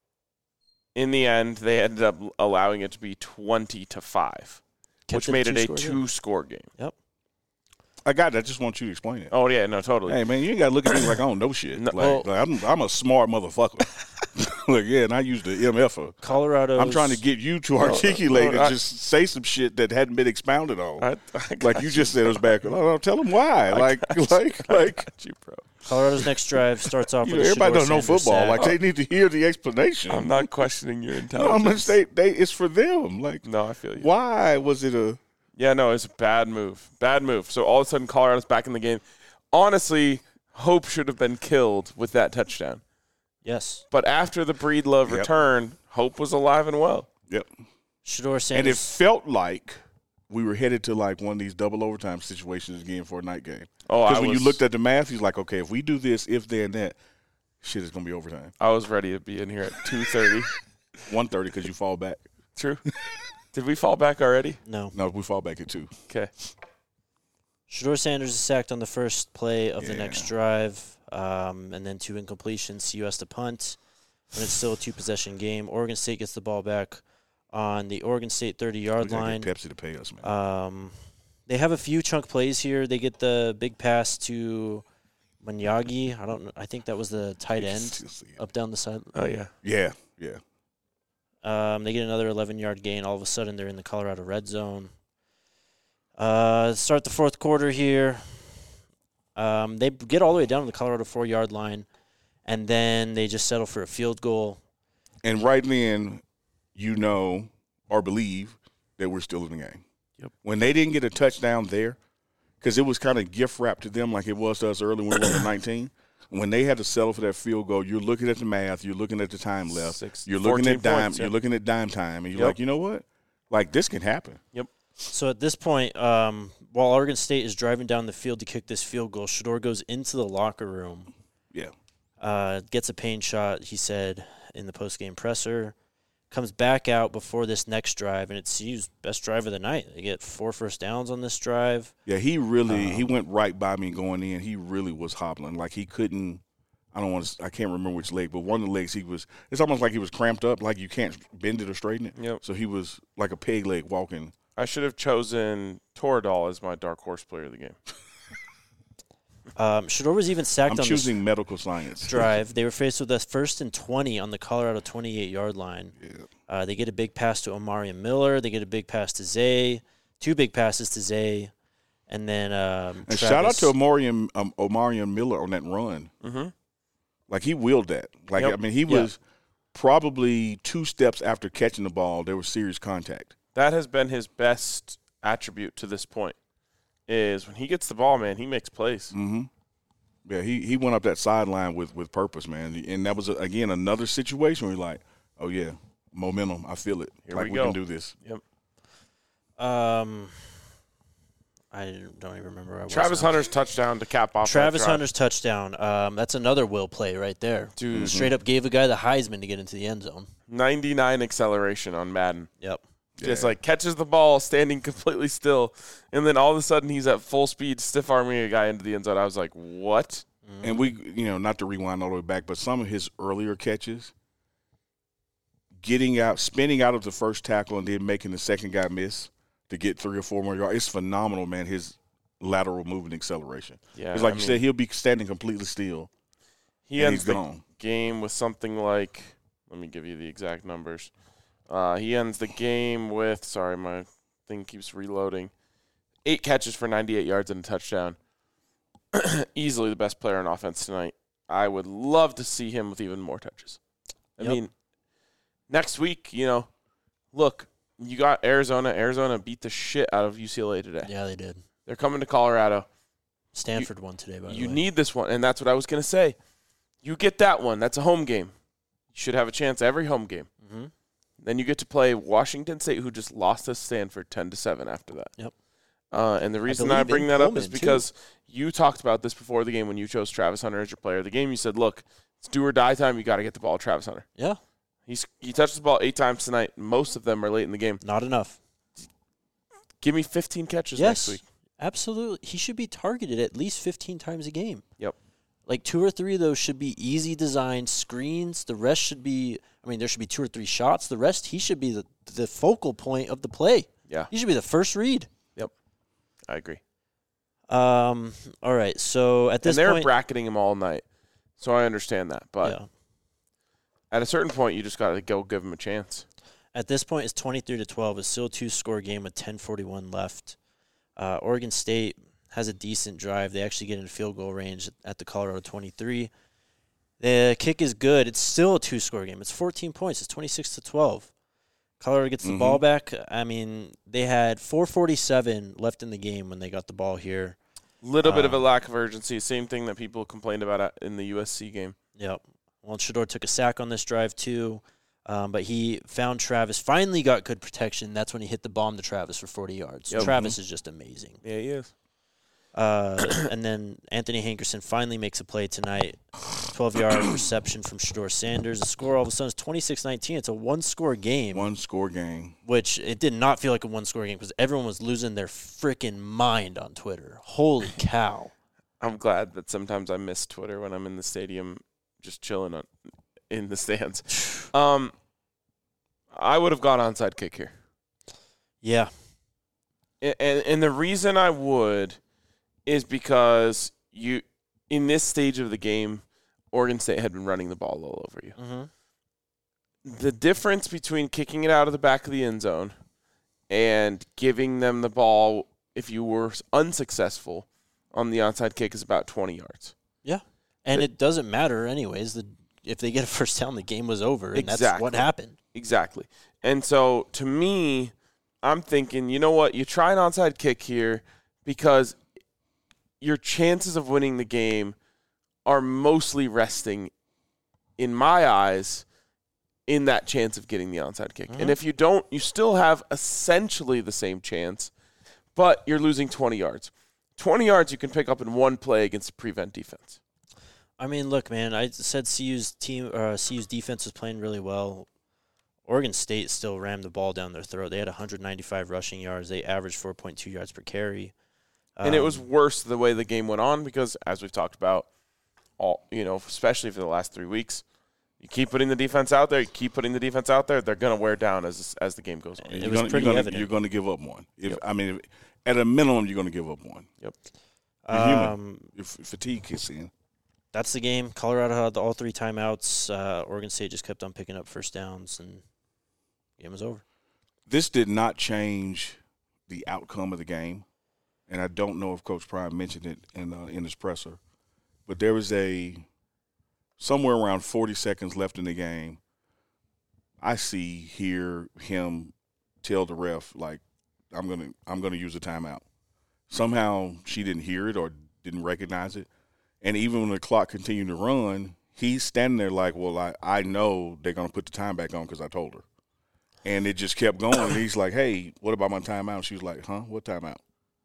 In the end, they ended up allowing it to be twenty to five, Kept which it made it a two-score game. two score game. Yep. I got it. I just want you to explain it. Oh yeah, no, totally. Hey man, you ain't gotta look at me like I don't know shit. No, like, well, like I'm, I'm a smart motherfucker. Like yeah, and I use the M F for. Colorado. I'm trying to get you to articulate no, and I, just say some shit that hadn't been expounded on. I, I like you just said us back. Oh, tell them why. I like you. like like. Got you, bro. Colorado's next drive starts off You with know, a everybody Shedeur doesn't know Sanders football. sack. Like they need to hear the explanation. I'm not questioning your No, intelligence. I'm they, they, it's for them. Like no, I feel you. Why was it a? Yeah, no, it's a bad move. Bad move. So all of a sudden, Colorado's back in the game. Honestly, hope should have been killed with that touchdown. Yes. But after the Breedlove Yep. return, hope was alive and well. Yep. Shedeur Sanders. And it felt like we were headed to like one of these double overtime situations again for a night game. Oh, Because I when was, you looked at the math, he's like, okay, if we do this, if then that, shit is gonna be overtime. I was ready to be in here at two thirty. one thirty because you fall back. True. Did we fall back already? No. No, we fall back at two. Okay. Shedeur Sanders is sacked on the first play of the Yeah. next drive, um, and then two incompletions. C U has to punt, and it's still a two-possession game. Oregon State gets the ball back on the Oregon State thirty-yard We gotta line. get Pepsi to pay us, man. Um, they have a few chunk plays here. They get the big pass to Manyagi. I don't know. I think that was the tight end up down the side. Oh, yeah. Yeah, yeah. Um, they get another eleven-yard gain. All of a sudden, they're in the Colorado red zone. Uh, start the fourth quarter here. Um, they get all the way down to the Colorado four-yard line, and then they just settle for a field goal. And right then, you know or believe that we're still in the game. Yep. When they didn't get a touchdown there, because it was kind of gift wrapped to them like it was to us early when we were on nineteen. When they had to settle for that field goal, you're looking at the math, you're looking at the time left, Six, you're looking at dime, points, you're yeah. looking at dime time, and you're Yep. like, you know what? Like this can happen. Yep. So at this point, um, while Oregon State is driving down the field to kick this field goal, Shedeur goes into the locker room. Yeah. Uh, gets a pain shot, he said, in the post-game presser. Comes back out before this next drive, and it's Hughes' best drive of the night. They get four first downs on this drive. Yeah, he really he Um, went right by me going in. He really was hobbling. Like he couldn't I don't want to I can't remember which leg, but one of the legs he was it's almost like he was cramped up, like you can't bend it or straighten it. Yep. So he was like a peg leg walking. I should have chosen Toradol as my dark horse player of the game. Um, Shedeur was even sacked I'm on choosing medical science. this drive. They were faced with a first and twenty on the Colorado twenty-eight-yard line. Yeah. Uh, they get a big pass to Omarion Miller. They get a big pass to Zay. Two big passes to Zay. And then um, And Travis, shout out to Omarion um, Omarion Miller on that run. Mm-hmm. Like he willed that. Like Yep. I mean, he Yeah. was probably two steps after catching the ball. There was serious contact. That has been his best attribute to this point, is when he gets the ball, man, he makes plays. Mm-hmm. Yeah, he, he went up that sideline with, with purpose, man. And that was, again, another situation where you're like, oh, yeah, momentum. I feel it. Here like we we, go. can do this. Yep. Um, I don't even remember where I was Travis now. Hunter's touchdown to cap off. Travis that drive. Hunter's touchdown. Um, that's another will play right there. Dude, Straight up gave a guy the Heisman to get into the end zone. ninety-nine acceleration on Madden. Yep. Just Yeah. like catches the ball standing completely still, and then all of a sudden he's at full speed, stiff arming a guy into the end zone. I was like, what? And we, you know, not to rewind all the way back, but some of his earlier catches, getting out, spinning out of the first tackle and then making the second guy miss to get three or four more yards, it's phenomenal, man, his lateral movement acceleration. Yeah, It's like I you mean, said, he'll be standing completely still, he and ends he's the gone. game with something like, let me give you the exact numbers. Uh, he ends the game with, sorry, my thing keeps reloading, eight catches for ninety-eight yards and a touchdown. Easily the best player on offense tonight. I would love to see him with even more touches. I Yep. mean, next week, you know, look, you got Arizona. Arizona beat the shit out of U C L A today. Yeah, they did. They're coming to Colorado. Stanford won today, by the You way. need this one, and that's what I was going to say. You get that one. That's a home game. You should have a chance every home game. Mhm. Then you get to play Washington State, who just lost to Stanford ten to seven after that. Yep. Uh, and the reason I, believe bring in that up Pullman, is too. because you talked about this before the game when you chose Travis Hunter as your player of the game. You said, look, it's do or die time. You got to get the ball to Travis Hunter. Yeah, He's He touched the ball eight times tonight. Most of them are late in the game. not enough. Give me fifteen catches Yes, next week. absolutely. He should be targeted at least fifteen times a game. Yep. Like two or three of those should be easy designed screens. The rest should be, I mean, there should be two or three shots. The rest, he should be the, the focal point of the play. Yeah, He should be the first read. I agree. Um. All right. So at this And they're point, bracketing him all night. So I understand that. But yeah. at a certain point, you just got to go give him a chance. At this point, it's twenty-three to twelve. It's still a two-score game with ten forty-one left. Uh, Oregon State has a decent drive. They actually get in field goal range at the Colorado twenty-three. The kick is good. It's still a two-score game. It's fourteen points. It's twenty-six to twelve. Colorado gets the Mhm. ball back. I mean, they had four forty-seven left in the game when they got the ball here. Little bit of a Uh, lack of urgency. Same thing that people complained about at- in the U S C game. Yep. Well, Shedeur took a sack on this drive, too. Um, but he found Travis, finally got good protection. That's when he hit the bomb to Travis for forty yards. Yep. Travis is just amazing. Yeah, he is. Uh, and then Anthony Hankerson finally makes a play tonight. twelve-yard reception from Shador Sanders. The score all of a sudden is twenty-six nineteen. It's a one-score game. One-score game. Which it did not feel like a one-score game because everyone was losing their freaking mind on Twitter. Holy cow. I'm glad that sometimes I miss Twitter when I'm in the stadium just chilling on, in the stands. Um, I would have gone onside kick here. Yeah. And, and, and the reason I would is because you, in this stage of the game, Oregon State had been running the ball all over you. Mm-hmm. The difference between kicking it out of the back of the end zone and giving them the ball if you were unsuccessful on the onside kick is about twenty yards. Yeah. And the, it doesn't matter anyways. The, if they get a first down, the game was over, and exactly. that's what happened. Exactly. And so, to me, I'm thinking, you know what? You try an onside kick here because your chances of winning the game are mostly resting, in my eyes, in that chance of getting the onside kick. Mm-hmm. And if you don't, you still have essentially the same chance, but you're losing twenty yards. twenty yards you can pick up in one play against a prevent defense. I mean, look, man, I said C U's team, uh, C U's defense was playing really well. Oregon State still rammed the ball down their throat. They had one hundred ninety-five rushing yards. They averaged four point two yards per carry. Um, And it was worse the way the game went on because, as we've talked about, all you know, especially for the last three weeks, you keep putting the defense out there. You keep putting the defense out there. They're going to wear down as as the game goes on. It you're was gonna, pretty you're gonna, evident. You're going to give up one. If Yep. I mean, if, at a minimum, you're going to give up one. Yep. You're human. Um, If fatigue kicks in. that's the game. Colorado had all three timeouts. Uh, Oregon State just kept on picking up first downs, and the game was over. This did not change the outcome of the game, and I don't know if Coach Prime mentioned it in uh, in his presser, but there was a somewhere around forty seconds left in the game. I see hear him tell the ref, like, I'm gonna I'm gonna use a timeout. Somehow she didn't hear it or didn't recognize it. And even when the clock continued to run, he's standing there like, well, I, I know they're going to put the time back on because I told her. And it just kept going. And he's like, hey, what about my timeout? She was like, huh, what timeout?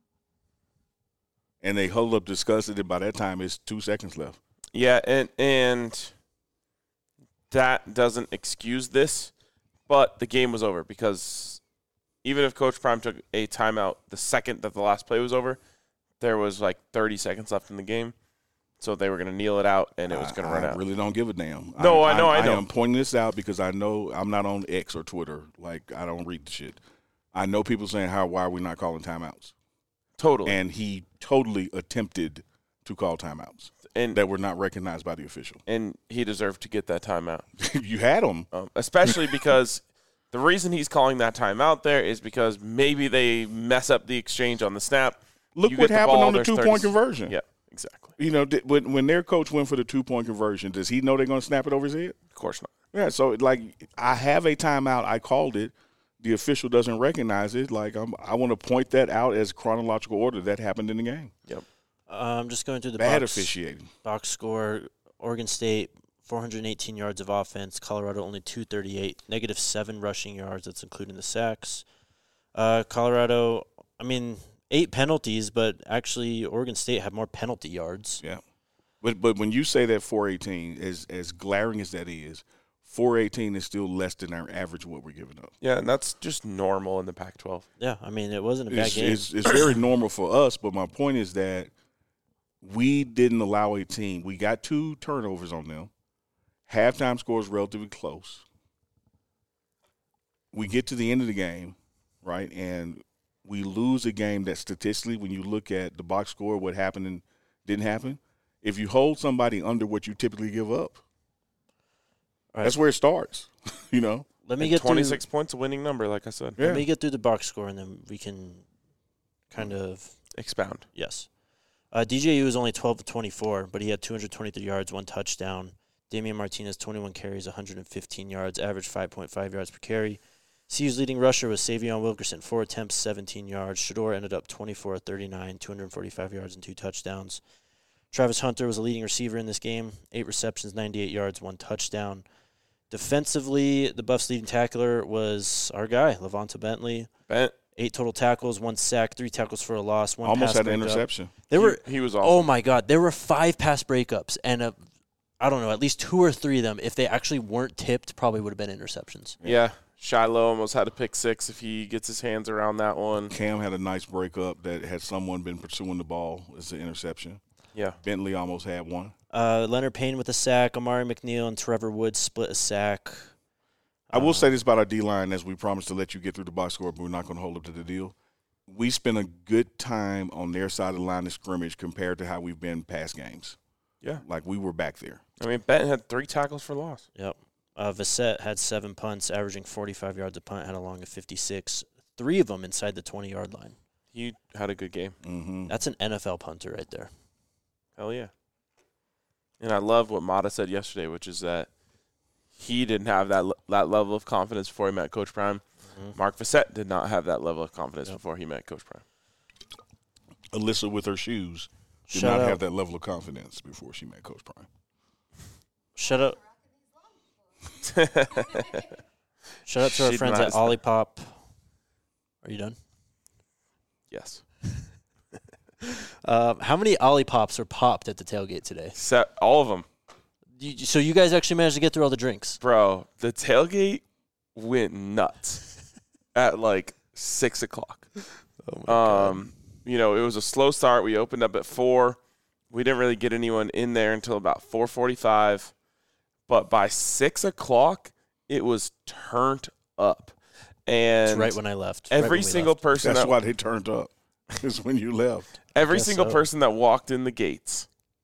And they huddled up, discussed it, and by that time it's two seconds left. Yeah, and and that doesn't excuse this, but the game was over because even if Coach Prime took a timeout the second that the last play was over, there was like thirty seconds left in the game. So they were going to kneel it out, and it was going to run I out. I really don't give a damn. No, I know, I know. I am pointing this out because I know I'm not on X or Twitter. Like, I don't read the shit. I know people saying, how, why are we not calling timeouts? Totally. And he totally attempted to call timeouts And that were not recognized by the official. and he deserved to get that timeout, You had him. um, especially because the reason he's calling that timeout there is because maybe they mess up the exchange on the snap. Look You what get the happened ball, on the there's two-point thirty conversion. Yeah, exactly. You know, did, when when their coach went for the two-point conversion, does he know they're going to snap it over his head? Of course not. Yeah, so, like, I have a timeout. I called it. The official doesn't recognize it. Like, I'm, I want to point that out as chronological order that happened in the game. Yep. I'm um, just going through the Bad box, officiating. box score. Oregon State, four hundred eighteen yards of offense. Colorado only two thirty-eight. Negative seven rushing yards. That's including the sacks. Uh, Colorado, I mean, eight penalties, but actually Oregon State had more penalty yards. Yeah. But but when you say that four eighteen, as as glaring as that is, four eighteen is still less than our average of what we're giving up. Yeah, and that's just normal in the Pac twelve. Yeah, I mean, it wasn't a bad It's, game. it's, it's very normal for us, but my point is that we didn't allow a team. We got two turnovers on them. Halftime score is relatively close. We get to the end of the game, right, and we lose a game that statistically, when you look at the box score, what happened and didn't happen, if you hold somebody under what you typically give up, Right. that's where it starts, you know. Let me And get twenty-six through, points, a winning number, like I said. Yeah. Let me get through the box score, and then we can kind of Expound. yes. Uh, D J U was only twelve of twenty-four, but he had two hundred twenty-three yards, one touchdown. Damian Martinez, twenty-one carries, one hundred fifteen yards, average five point five yards per carry. C U's leading rusher was Savion Wilkerson, four attempts, seventeen yards. Shador ended up twenty-four of thirty-nine, two hundred forty-five yards and two touchdowns. Travis Hunter was a leading receiver in this game, eight receptions, ninety-eight yards, one touchdown. Defensively, the Buffs' leading tackler was our guy, Levonta Bentley. Bent. Eight total tackles, one sack, three tackles for a loss, one Almost pass had an breakup. interception. There He- were he was awesome. Oh my God, there were five pass breakups, and a, I don't know, at least two or three of them, if they actually weren't tipped, probably would have been interceptions. Yeah. Shiloh almost had a pick six if he gets his hands around that one. Cam had a nice breakup that had someone been pursuing the ball as an interception. Yeah. Bentley almost had one. Uh, Leonard Payne with a sack, Amari McNeil and Trevor Woods split a sack. I will say this about our D-line, as we promised to let you get through the box score, but we're not going to hold up to the deal. We spent a good time on their side of the line of scrimmage compared to how we've been past games. Yeah. Like, we were back there. I mean, Benton had three tackles for loss. Yep. Uh, Vassett had seven punts, averaging forty-five yards a punt, had a long of fifty-six. Three of them inside the twenty-yard line. He had a good game. Mm-hmm. That's an N F L punter right there. Hell yeah. And I love what Mata said yesterday, which is that he didn't have that le- that level of confidence before he met Coach Prime. Mm-hmm. Mark Vassett did not have that level of confidence Yep. before he met Coach Prime. Alyssa with her shoes did Shout not out. have that level of confidence before she met Coach Prime. Shout out, shout out to our She friends at denies that. Olipop. Are you done? Yes. Uh, how many Olipops were popped at the tailgate today? Set all of them. You, so you guys actually managed to get through all the drinks? Bro, the tailgate went nuts at like six o'clock. Oh Um, you know, it was a slow start. We opened up at four. We didn't really get anyone in there until about four forty-five. But by six o'clock, it was turned up. And It's right when I left. right when every we single left. person That's that why they turned up, is when you left. every Guess single so. person that walked in the gates,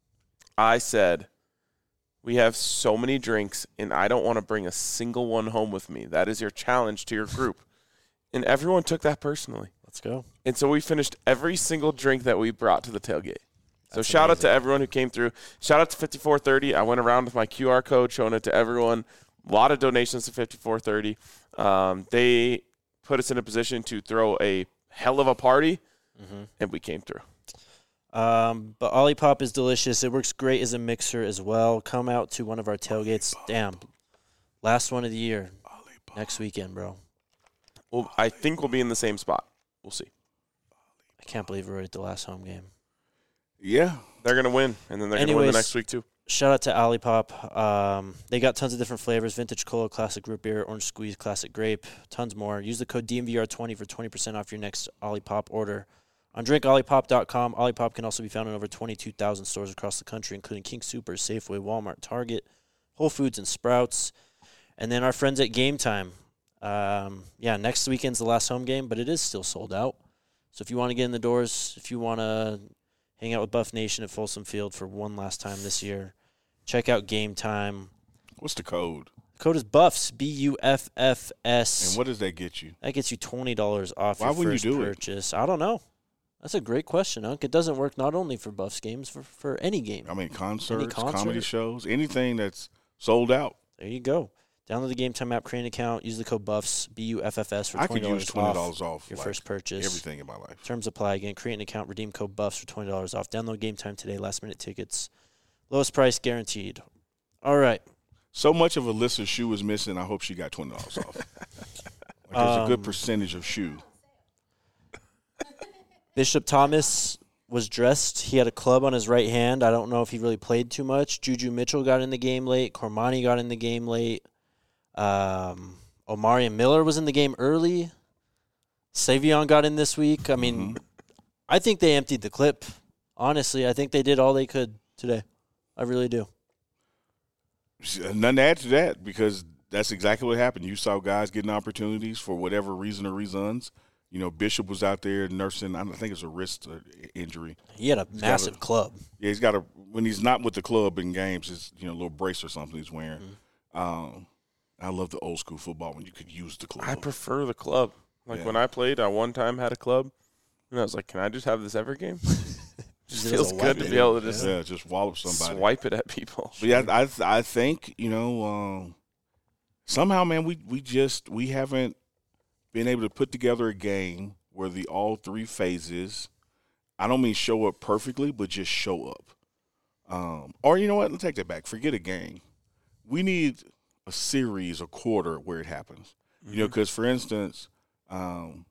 I said, we have so many drinks, and I don't want to bring a single one home with me. That is your challenge to your group. And everyone took that personally. Let's go. And so we finished every single drink that we brought to the tailgate. So That's shout out to amazing. everyone who came through. Shout out to fifty-four thirty. I went around with my Q R code, showing it to everyone. A lot of donations to fifty-four thirty. Um, they put us in a position to throw a hell of a party, Mm-hmm. and we came through. Um, but Olipop is delicious. It works great as a mixer as well. Come out to one of our tailgates. Damn. Last one of the year. Next weekend, bro. Well, I think we'll be in the same spot. We'll see. I can't believe we're already at the last home game. Yeah. They're going to win, and then they're going to win the Anyways, next week too. Shout out to Olipop. Um, they got tons of different flavors: vintage cola, classic root beer, orange squeeze, classic grape, tons more. Use the code D M V R twenty for twenty percent off your next Olipop order. On drink olipop dot com, Olipop can also be found in over twenty-two thousand stores across the country, including King Soopers, Safeway, Walmart, Target, Whole Foods, and Sprouts. And then our friends at Game Time. Um, yeah, next weekend's the last home game, but it is still sold out. So if you want to get in the doors, if you want to hang out with Buff Nation at Folsom Field for one last time this year, check out Game Time. What's the code? The code is BUFFS, B U F F S. And what does that get you? That gets you twenty dollars off Why your wouldn't first you do it? purchase. I don't know. That's a great question, Unc. It doesn't work not only for Buffs games, for, for any game. I mean, concerts, concert? comedy shows, anything that's sold out. There you go. Download the Game Time app, create an account, use the code BUFFS, B U F F S for I twenty could dollars use twenty off dollars off your like, first purchase. everything in my life. Terms apply. Again, create an account, redeem code BUFFS for twenty dollars off. Download Game Time today. Last minute tickets. Lowest price guaranteed. All right. So much of Alyssa's shoe is missing. I hope she got twenty dollars off. Like, there's a good Um, percentage of shoe. Bishop Thomas was dressed. He had a club on his right hand. I don't know if he really played too much. Juju Mitchell got in the game late. Cormani got in the game late. Um, Omarion Miller was in the game early. Savion got in this week. I mean, Mhm. I think they emptied the clip. Honestly, I think they did all they could today. I really do. Nothing to add to that because that's exactly what happened. You saw guys getting opportunities for whatever reason or reasons. You know, Bishop was out there nursing, I think it's a wrist uh, injury. He had a got massive a- club. Yeah, he's got a, when he's not with the club in games, it's, you know, a little brace or something he's wearing. Mm-hmm. Um, I love the old school football when you could use the club. I prefer the club. Like Yeah. when I played, I one time had a club, and I was like, "Can I just have this every game?" Just Use it as feels a good to weapon. be able to just yeah, just wallop somebody. swipe it at people. But yeah, I I think you know um, somehow, man, we we just we haven't been able to put together a game where the all three phases. I don't mean show up perfectly, but just show up. Um, or you know what? Let's take that back. Forget a game. We need a series, a quarter where it happens. Mm-hmm. You know, because, for instance, um,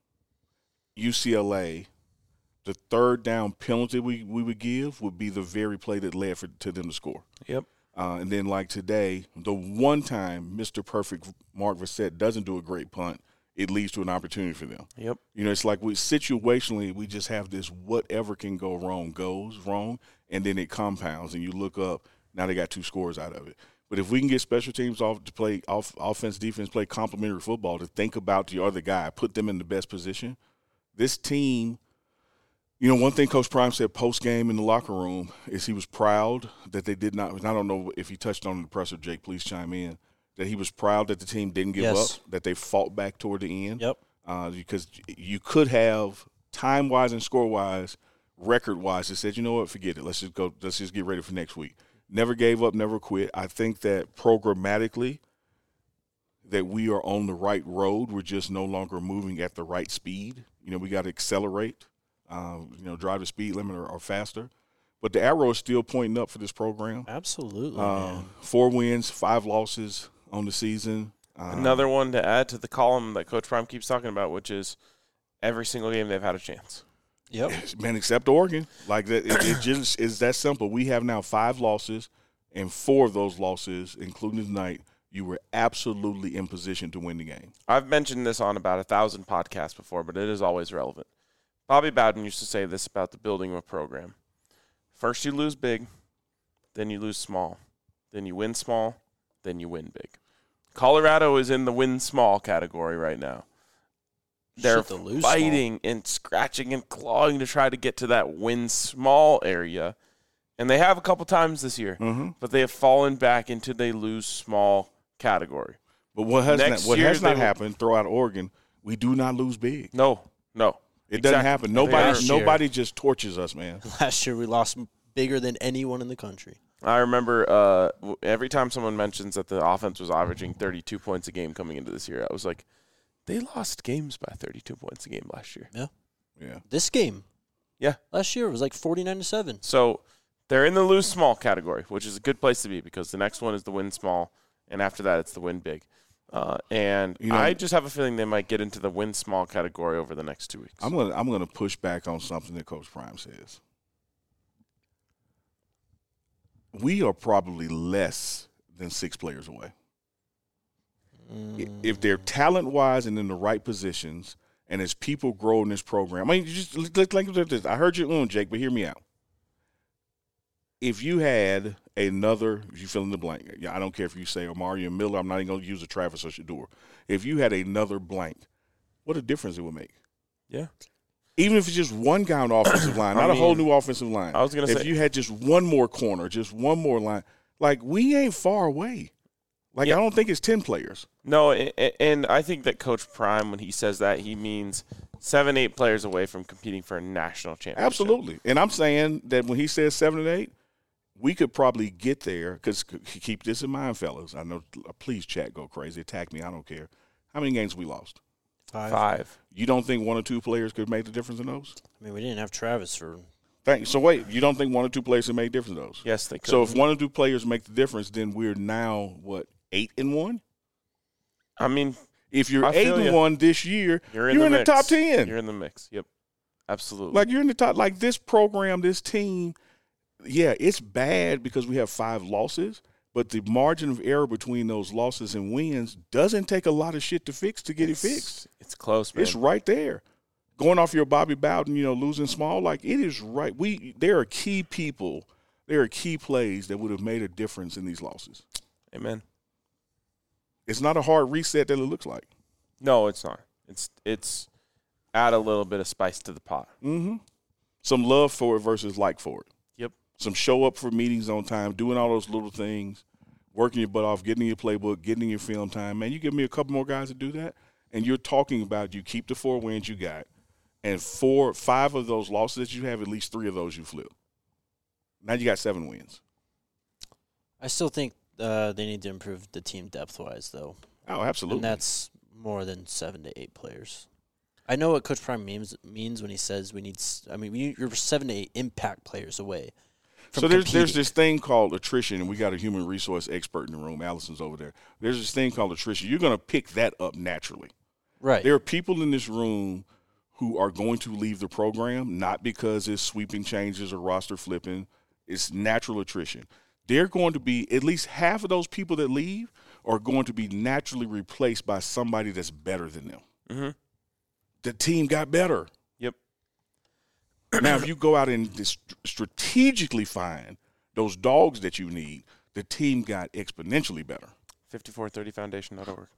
U C L A, the third down penalty we, we would give would be the very play that led for, to them to score. Yep. Uh, and then, like today, the one time Mister Perfect Mark Vrissett doesn't do a great punt, it leads to an opportunity for them. Yep. You know, it's like we situationally we just have this whatever can go wrong goes wrong, and then it compounds, and you look up, now they got two scores out of it. But if we can get special teams off to play off offense, defense, play complementary football, to think about the other guy, put them in the best position, this team, you know, one thing Coach Prime said post-game in the locker room is he was proud that they did not – I don't know if he touched on the presser, Jake, please chime in, that he was proud that the team didn't give yes. up, that they fought back toward the end. Yep. Uh, because you could have, time-wise and score-wise, record-wise, it said, you know what, forget it. Let's just go – let's just get ready for next week. Never gave up, never quit. I think that programmatically that we are on the right road. We're just no longer moving at the right speed. You know, we got to accelerate, uh, you know, drive the speed limit or, or faster. But the arrow is still pointing up for this program. Absolutely. Uh, four wins, five losses on the season. Uh, Another one to add to the column that Coach Prime keeps talking about, which is every single game they've had a chance. Yep. Man, except Oregon. Like that, it, it just is that simple. We have now five losses, and four of those losses, including tonight, you were absolutely in position to win the game. I've mentioned this on about a thousand podcasts before, but it is always relevant. Bobby Bowden used to say this about the building of a program. First you lose big, then you lose small. Then you win small, then you win big. Colorado is in the win small category right now. They're the fighting small. and scratching and clawing to try to get to that win small area. And they have a couple times this year, mm-hmm. but they have fallen back into the lose small category. But what has Next not, what year, has not will, happened throughout Oregon, we do not lose big. No, no. It exactly. doesn't happen. Nobody Last nobody year. just torches us, man. Last year we lost bigger than anyone in the country. I remember uh, every time someone mentions that the offense was averaging thirty-two points a game coming into this year, I was like, they lost games by thirty-two points a game last year. Yeah. Yeah. This game. Yeah. Last year it was like forty-nine to seven. So they're in the lose small category, which is a good place to be because the next one is the win small, and after that it's the win big. Uh, and you know, I just have a feeling they might get into the win small category over the next two weeks. I'm gonna I'm gonna push back on something that Coach Prime says. We are probably less than six players away. Mm. If they're talent-wise and in the right positions, and as people grow in this program, I mean, just like, like this. I heard you on, Jake, but hear me out. If you had another, if you fill in the blank, I don't care if you say Omarion Miller, I'm not even going to use a Travis or Shedeur. If you had another blank, what a difference it would make. Yeah. Even if it's just one guy on the offensive line, not I mean, a whole new offensive line. I was going to say. If you had just one more corner, just one more line, like we ain't far away. Like yeah. I don't think it's ten players. No, and I think that Coach Prime, when he says that, he means seven, eight players away from competing for a national championship. Absolutely. And I'm saying that when he says seven and eight, we could probably get there because keep this in mind, fellas. I know, please chat, go crazy, attack me. I don't care. How many games we lost? Five. Five. You don't think one or two players could make the difference in those? I mean, we didn't have Travis for. Thank. So wait, you don't think one or two players could make a difference in those? Yes, they could. So if one or two players make the difference, then we're now what eight and one? I mean, if you're I eight and you. one this year, you're in, you're the, in the top ten. You're in the mix. Yep, absolutely. Like you're in the top. Like this program, this team. Yeah, it's bad because we have five losses, but the margin of error between those losses and wins doesn't take a lot of shit to fix to get it's, it fixed. It's close, man. It's right there. Going off your Bobby Bowden, you know, losing small, like it is right. We there are key people, there are key plays that would have made a difference in these losses. Amen. It's not a hard reset that it looks like. No, it's not. It's it's add a little bit of spice to the pot. Mm-hmm. Some love for it versus like for it. Yep. Some show up for meetings on time, doing all those little things, working your butt off, getting in your playbook, getting in your film time. Man, you give me a couple more guys to do that, and you're talking about you keep the four wins you got, and four, five of those losses that you have, at least three of those you flip. Now you got seven wins. I still think uh, they need to improve the team depth-wise, though. Oh, absolutely. And that's more than seven to eight players. I know what Coach Prime means means when he says we need – I mean, we, you're seven to eight impact players away from so there's there's competing. this thing called attrition, and we got a human resource expert in the room. Allison's over there. There's this thing called attrition. You're going to pick that up naturally. Right. There are people in this room who are going to leave the program, not because it's sweeping changes or roster flipping. It's natural attrition. They're going to be, at least half of those people that leave are going to be naturally replaced by somebody that's better than them. Mm-hmm. The team got better. Yep. Now, if you go out and dis- strategically find those dogs that you need, the team got exponentially better. fifty-four thirty foundation dot org.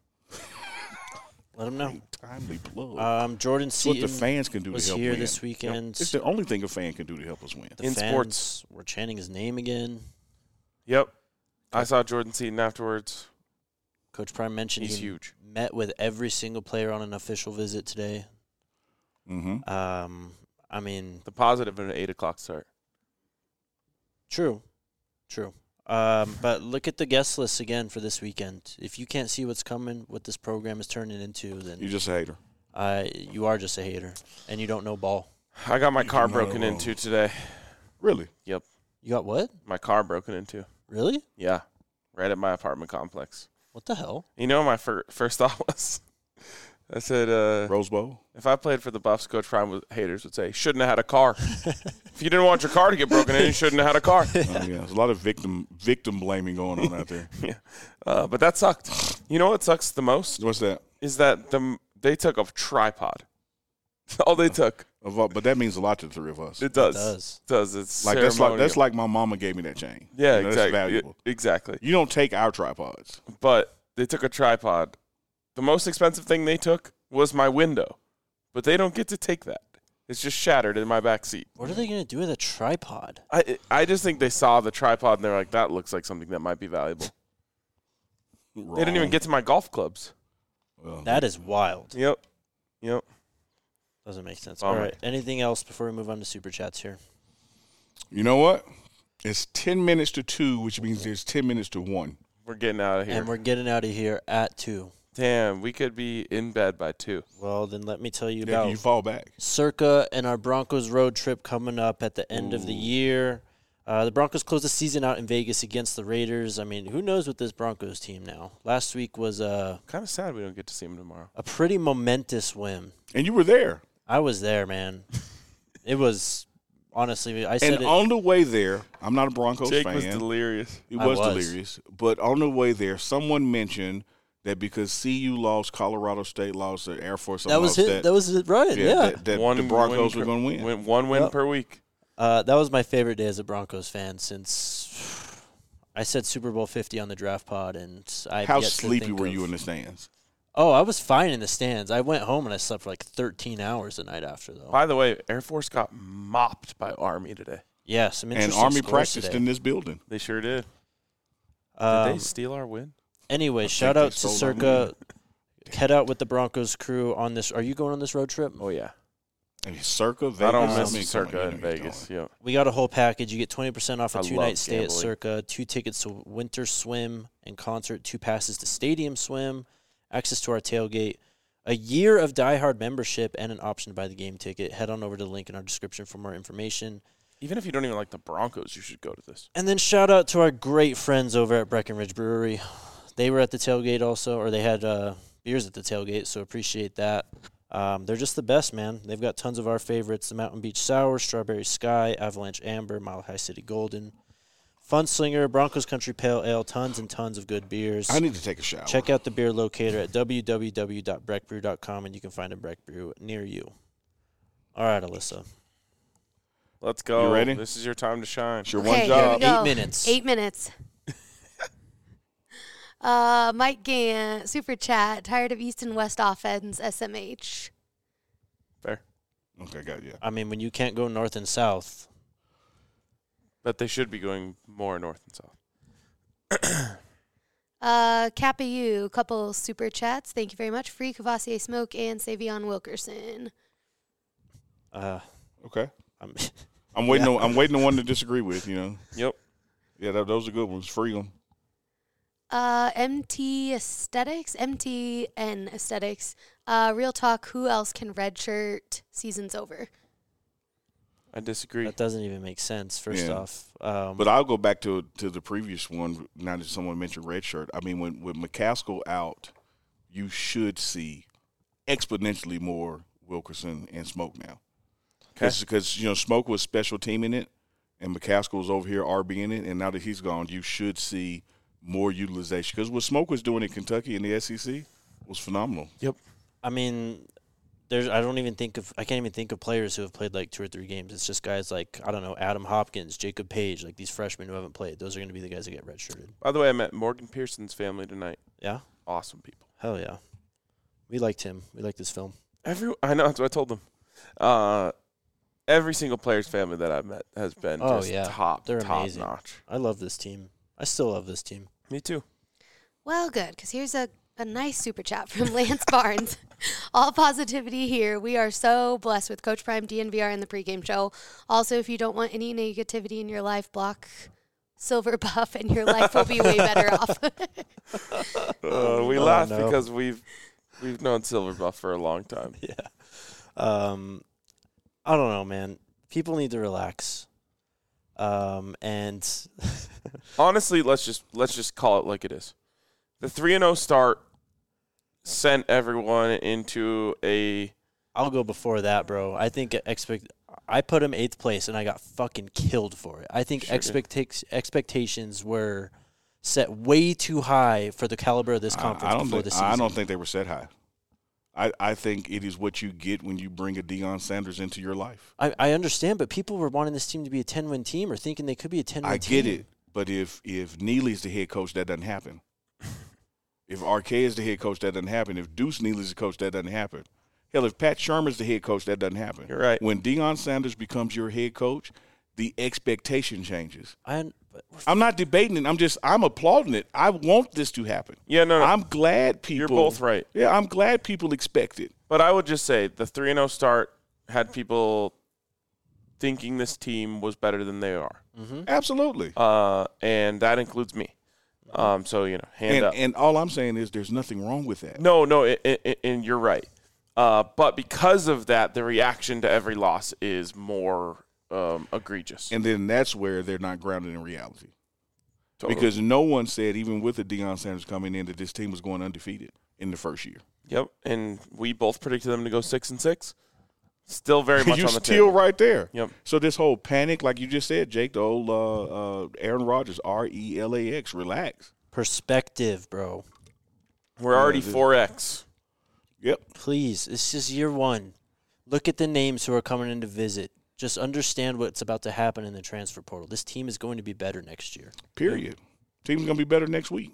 Let them know. Timely plug. Um, Jordan It's what Seaton the fans can do to was help here win. this weekend. It's the only thing a fan can do to help us win. The In fans sports. were chanting his name again. Yep. I saw Jordan Seaton afterwards. Coach Prime mentioned He's he huge. met with every single player on an official visit today. Mm-hmm. Um, I mean, The positive of an eight o'clock start. true, true. Um, but look at the guest list again for this weekend. If you can't see what's coming, what this program is turning into, then You're just a hater. uh, you are just a hater, and you don't know ball. I got my You car do not broken know. into today. Really? You got what? My car broken into. Really? Yeah. Right at my apartment complex. What the hell? You know what my fir- first thought was? I said, uh, Rose Bowl? if I played for the Buffs, Coach Prime would, haters would say, shouldn't have had a car. If you didn't want your car to get broken in, you shouldn't have had a car. Oh, yeah. There's a lot of victim victim blaming going on out there. yeah. Uh, but that sucked. You know what sucks the most? What's that? Is that the they took a tripod. All they took. Of all- But that means a lot to the three of us. It does. It does. It does. It's Like that's like that's ceremonial. like my mama gave me that chain. Yeah, You know, exactly. That's valuable. Yeah, exactly. You don't take our tripods. But they took a tripod. The most expensive thing they took was my window. But they don't get to take that. It's just shattered in my back seat. What are they going to do with a tripod? I I just think they saw the tripod and they're like, that looks like something that might be valuable. They didn't even Wrong. get to my golf clubs. Well, That is wild. Yep. Yep. Doesn't make sense. Bummer. All right. Anything else before we move on to Super Chats here? You know what? It's ten minutes to two, which means there's ten minutes to one. We're getting out of here. And we're getting out of here at two. Damn, we could be in bed by two. Well, then let me tell you Yeah, about you fall back. Circa and our Broncos road trip coming up at the end of the year. Uh, the Broncos close the season out in Vegas against the Raiders. I mean, who knows with this Broncos team now? Last week was a, Kind of sad we don't get to see him tomorrow. a pretty momentous win. And you were there. I was there, man. It was, honestly, I said And it. on the way there, I'm not a Broncos Jake fan. was delirious. It I was, was. delirious. But on the way there, someone mentioned that because C U lost, Colorado State lost, the Air Force that was lost it. that, That was it, right? Yeah. that, that One the Broncos win were per- going to win. win- One win Yep. per week. Uh, that was my favorite day as a Broncos fan since I said Super Bowl fifty on the draft pod, and I How sleepy were you in the stands? Oh, I was fine in the stands. I went home and I slept for like thirteen hours the night after, though. By the way, Air Force got mopped by Army today. Yeah, some And interesting Army scores practiced today. in this building. They sure did. Did Um, they steal our win? anyway, shout they out to stole our Circa. Head out with the Broncos crew on this. Are you going on this road trip? Oh, yeah. And Circa, Vegas. I don't I miss mean, come Circa on, in you know you're Vegas. going. Yeah. We got a whole package. You get twenty percent off a I two love night stay at gambling. Circa, two tickets to winter swim and concert, two passes to stadium swim, access to our tailgate, a year of Die Hard membership, and an option to buy the game ticket. Head on over to the link in our description for more information. Even if you don't even like the Broncos, you should go to this. And then shout out to our great friends over at Breckenridge Brewery. They were at the tailgate also, or they had uh, beers at the tailgate, so appreciate that. Um, they're just the best, man. They've got tons of our favorites: the Mountain Beach Sour, Strawberry Sky, Avalanche Amber, Mile High City Golden, Funslinger, Broncos Country Pale Ale, tons and tons of good beers. I need to take a shower. Check out the beer locator at w w w dot breck brew dot com, and you can find a Breck Brew near you. All right, Alyssa. Let's go. You ready? This is your time to shine. It's your Okay, one here job. we go. Eight minutes. Eight minutes. uh, Mike Gant, super chat. Tired of East and West offense. S M H. Fair. Okay, got you. I mean, when you can't go north and south, But they should be going more north and south. Uh, Kappa U, couple super chats. Thank you very much. Free Cavassier Smoke and Savion Wilkerson. uh, Okay. I'm I'm waiting. Yeah. On, I'm waiting on one to disagree with. You know. Yep. Yeah, that, those are good ones. Free them. Uh, M T Aesthetics, M T N Aesthetics. Uh, real talk. Who else can redshirt? Season's over. I disagree. That doesn't even make sense, first Yeah. off. Um, But I'll go back to to the previous one. Now that someone mentioned redshirt, I mean, when with McCaskill out, you should see exponentially more Wilkerson and Smoke now. Because, you know, Smoke was special teaming it, and McCaskill was over here RBing it, and now that he's gone, you should see more utilization. Because what Smoke was doing in Kentucky in the S E C was phenomenal. Yep. I mean, there's. I don't even think of. I can't even think of players who have played like two or three games. It's just guys like I don't know, Adam Hopkins, Jacob Page, like these freshmen who haven't played. Those are going to be the guys that get redshirted. By the way, I met Morgan Pearson's family tonight. Yeah. Awesome people. Hell yeah. We liked him. We liked this film. Every I know that's what I told them. Uh, every single player's family that I've met has been Oh, just yeah. top, They're top amazing. notch. I love this team. I still love this team. Me too. Well, good, because here's a, a nice super chat from Lance Barnes. All positivity here. We are so blessed with Coach Prime, D N V R, and the pregame show. Also, if you don't want any negativity in your life, block Silver Buff, and your life will be way better off. Uh, we Oh, laugh no. because we've we've known Silverbuff for a long time. Yeah. Um, I don't know, man. People need to relax. Um, and Honestly, let's just let's just call it like it is. The three and oh start sent everyone into a I'll go before that, bro. I think expect. I put him eighth place, and I got fucking killed for it. I think Sure did. expecta- expectations were set way too high for the caliber of this I- conference I don't before think, the season. I don't think they were set high. I, I think it is what you get when you bring a Deion Sanders into your life. I, I understand, but people were wanting this team to be a ten-win team or thinking they could be a ten-win I team. get it, but if if Neely's the head coach, that doesn't happen. If Arquet is the head coach, that doesn't happen. If Deuce Neely's the coach, that doesn't happen. Hell, if Pat Shermer's the head coach, that doesn't happen. You're right. When Deion Sanders becomes your head coach, the expectation changes. I, but we're I'm not debating it. I'm just I'm applauding it. I want this to happen. Yeah, no, no. I'm glad people. You're both right. Yeah, I'm glad people expect it. But I would just say the three and oh start had people thinking this team was better than they are. Absolutely. Uh, and that includes me. Um, so, you know, hand And, up. and all I'm saying is there's nothing wrong with that. No, no, it, it, it- and you're right. Uh, but because of that, the reaction to every loss is more um, egregious. And then that's where they're not grounded in reality. Totally. Because no one said, even with the Deion Sanders coming in, that this team was going undefeated in the first year. Yep, and we both predicted them to go six and six. Still very much You're on the still table. right there. Yep. So this whole panic, like you just said, Jake, the old uh, uh, Aaron Rodgers, R E L A X, relax. perspective, bro. We're already this- four X. Yep. Please, this is year one. Look at the names who are coming in to visit. Just understand what's about to happen in the transfer portal. This team is going to be better next year. Period. Team's going to be better next week.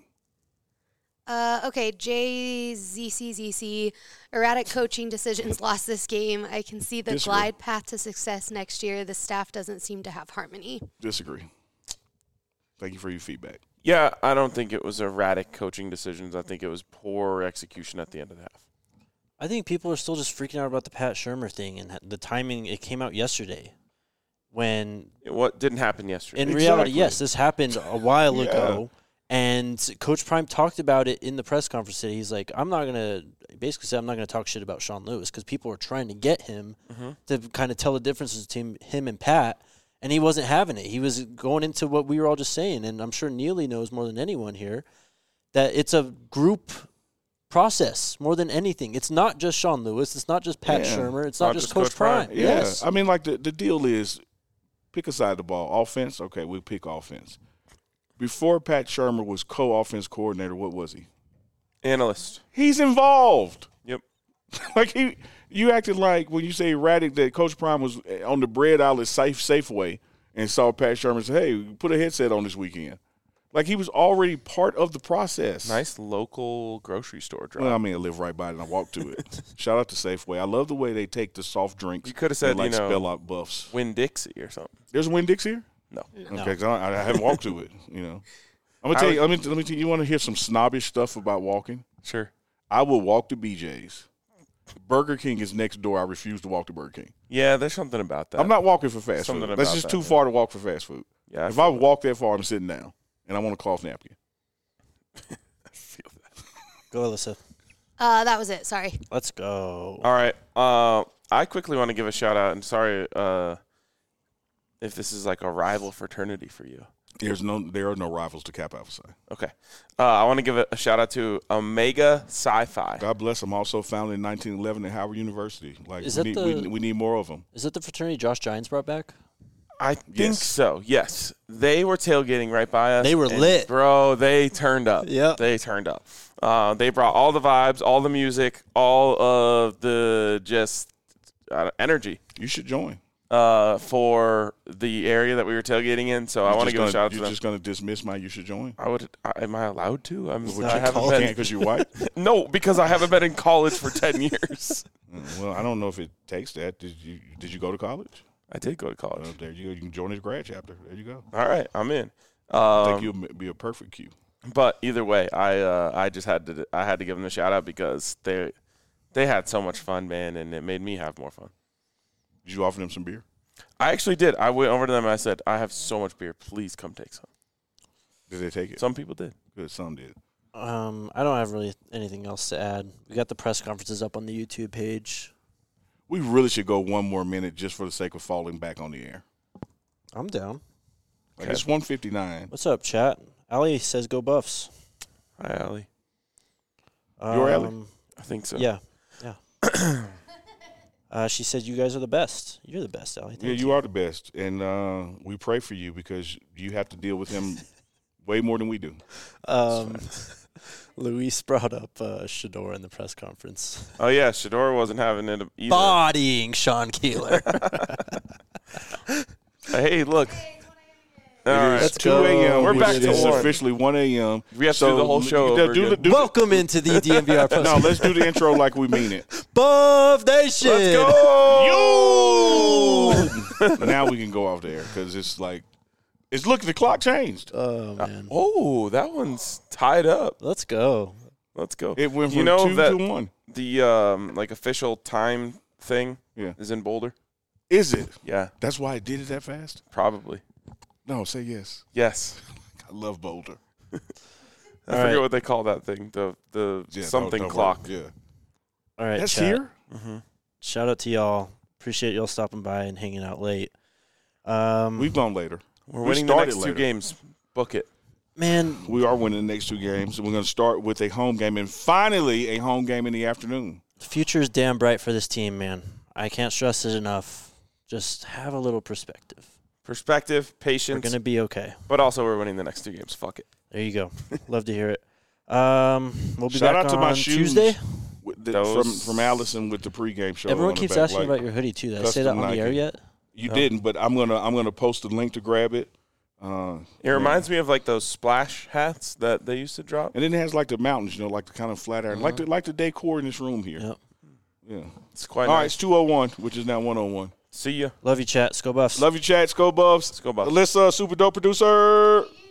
Uh, okay, J Z C Z C, erratic coaching decisions lost this game. I can see the Disagree. glide path to success next year. The staff doesn't seem to have harmony. Disagree. Thank you for your feedback. Yeah, I don't think it was erratic coaching decisions. I think it was poor execution at the end of the half. I think people are still just freaking out about the Pat Shermer thing and the timing. It came out yesterday when, It, what didn't happen yesterday? in reality, Exactly. yes, this happened a while Yeah. ago. And Coach Prime talked about it in the press conference today. He's like, I'm not going to – basically said I'm not going to talk shit about Sean Lewis because people were trying to get him to kind of tell the differences between him and Pat, and he wasn't having it. He was going into what we were all just saying, and I'm sure Neely knows more than anyone here, that it's a group process more than anything. It's not just Sean Lewis. It's not just Pat Yeah. Shermer. It's not, Not just just Coach, Coach Prime. Prime. Yeah. Yes. I mean, like, the, the deal is pick a side of the ball. Offense, okay, we'll pick offense. Before Pat Shermer was co-offense coordinator, what was he? Analyst. He's involved. Yep. Like, he, you acted like when you say erratic that Coach Prime was on the bread outlet safe Safeway and saw Pat Shermer say, hey, put a headset on this weekend. Like, he was already part of the process. Nice local grocery store drive. Well, I mean, I live right by it and I walk to it. Shout out to Safeway. I love the way they take the soft drinks. You coulda said, and, like, you know, spell out buffs. Winn-Dixie or something. There's a Winn-Dix here? No. Okay, 'cause I, I haven't walked to it. You know, I'm gonna I tell was- you. Let me let me tell you. You want to hear some snobbish stuff about walking? Sure. I will walk to B J's. Burger King is next door. I refuse to walk to Burger King. Yeah, there's something about that. I'm not walking for fast Something food. That's about just that, too yeah. far to walk for fast food. Yeah, I if feel I that. walk that far, I'm sitting down and I want a cloth napkin. feel that. Go, Alyssa. Uh, that was it. Sorry. Let's go. All right. Uh, I quickly want to give a shout out, and sorry, uh, if this is like a rival fraternity for you. There's no, there are no rivals to Kappa Alpha Psi. Okay. Uh, I want to give a, a shout out to Omega Sci-Fi. God bless them. Also founded in nineteen eleven at Howard University. Like Is we, that need, the- we, we need more of them. Is that the fraternity Josh Gines brought back? I think Yes. so. Yes, they were tailgating right by us. They were and, lit. bro. They turned up. Yep. They turned up. Uh, they brought all the vibes, all the music, all of the just uh, energy You should join. uh, for the area that we were tailgating in. So I You're want to just give a gonna- shout out to You're them. just going to dismiss my you should join? I would. I, am I allowed to? I'm. Would I you haven't call been. because you're white? No, because I haven't been in college for ten years. Mm, well, I don't know if it takes that. Did you Did you go to college? I did go to college. Well, there you go. You can join his grad chapter. There you go. All right, I'm in. I think Um, you'll be a perfect Q. but either way, I uh, I just had to I had to give them a shout out because they they had so much fun, man, and it made me have more fun. Did you offer them some beer? I actually did. I went over to them and I said, I have so much beer. Please come take some. Did they take it? Some people did. Good. Some did. Um, I don't have really anything else to add. We got the press conferences up on the YouTube page. We really should go one more minute just for the sake of falling back on the air. I'm down. Like Okay. It's one fifty-nine. What's up, chat? Allie says go Buffs. Hi, Allie. You're Allie? Um, I think so. Yeah, yeah. uh, she said you guys are the best. You're the best, Allie. Yeah, Thank you are the best, and uh, we pray for you because you have to deal with him way more than we do. Um, Luis brought up uh, Shador in the press conference. Oh yeah, Shador wasn't having it either. Bodying Sean Keeler. Hey, look. All right. Let's two go. a.m. We're which back to is one. officially one a.m. We have to do the whole show do over the- again. do the- Welcome into the D M V R post. No, let's do the intro like we mean it. Buff Nation. Let's go. Now we can go off there because it's like, it's look, the clock changed. Oh man, Oh, that one's tied up. let's go. Let's go. It went from you know two that to one. the um, like official time thing Yeah. is in Boulder. Is it? Yeah, That's why it did it that fast? probably. No, say yes. Yes. I love Boulder. I All forget right. what they call that thing. The the Yeah, don't- something don't clock. worry. Yeah. All right, That's chat. here? Mm-hmm. Shout out to y'all. Appreciate y'all stopping by and hanging out late. Um, We've gone later. We're We winning the started next two later. games. Book it. man, We are winning the next two games. We're going to start with a home game and finally a home game in the afternoon. the future is damn bright for this team, man. I can't stress it enough. Just have a little perspective. Perspective, We're patience, gonna be okay. but also we're winning the next two games. Fuck it. There you go. Love to hear it. Um, we'll be Shout back out to on my shoes Tuesday. with the, Those- from from Allison with the pregame show. Everyone on the keeps back, asking like, about your hoodie too. Did I say that custom on the air Nike. yet? You No. didn't, but I'm gonna I'm gonna post a link to grab it. Uh, It reminds me of like those splash hats that they used to drop. and then it has like the mountains, you know, like the kind of flat iron, like Uh-huh. the like the decor in this room here. Yep. Yeah. It's quite All right, nice. it's two oh one, which is now one oh one. See ya. Love you, chat. Let's go Buffs. Love you, chat. Go Buffs. Let's go, Buffs. Alyssa, super dope producer.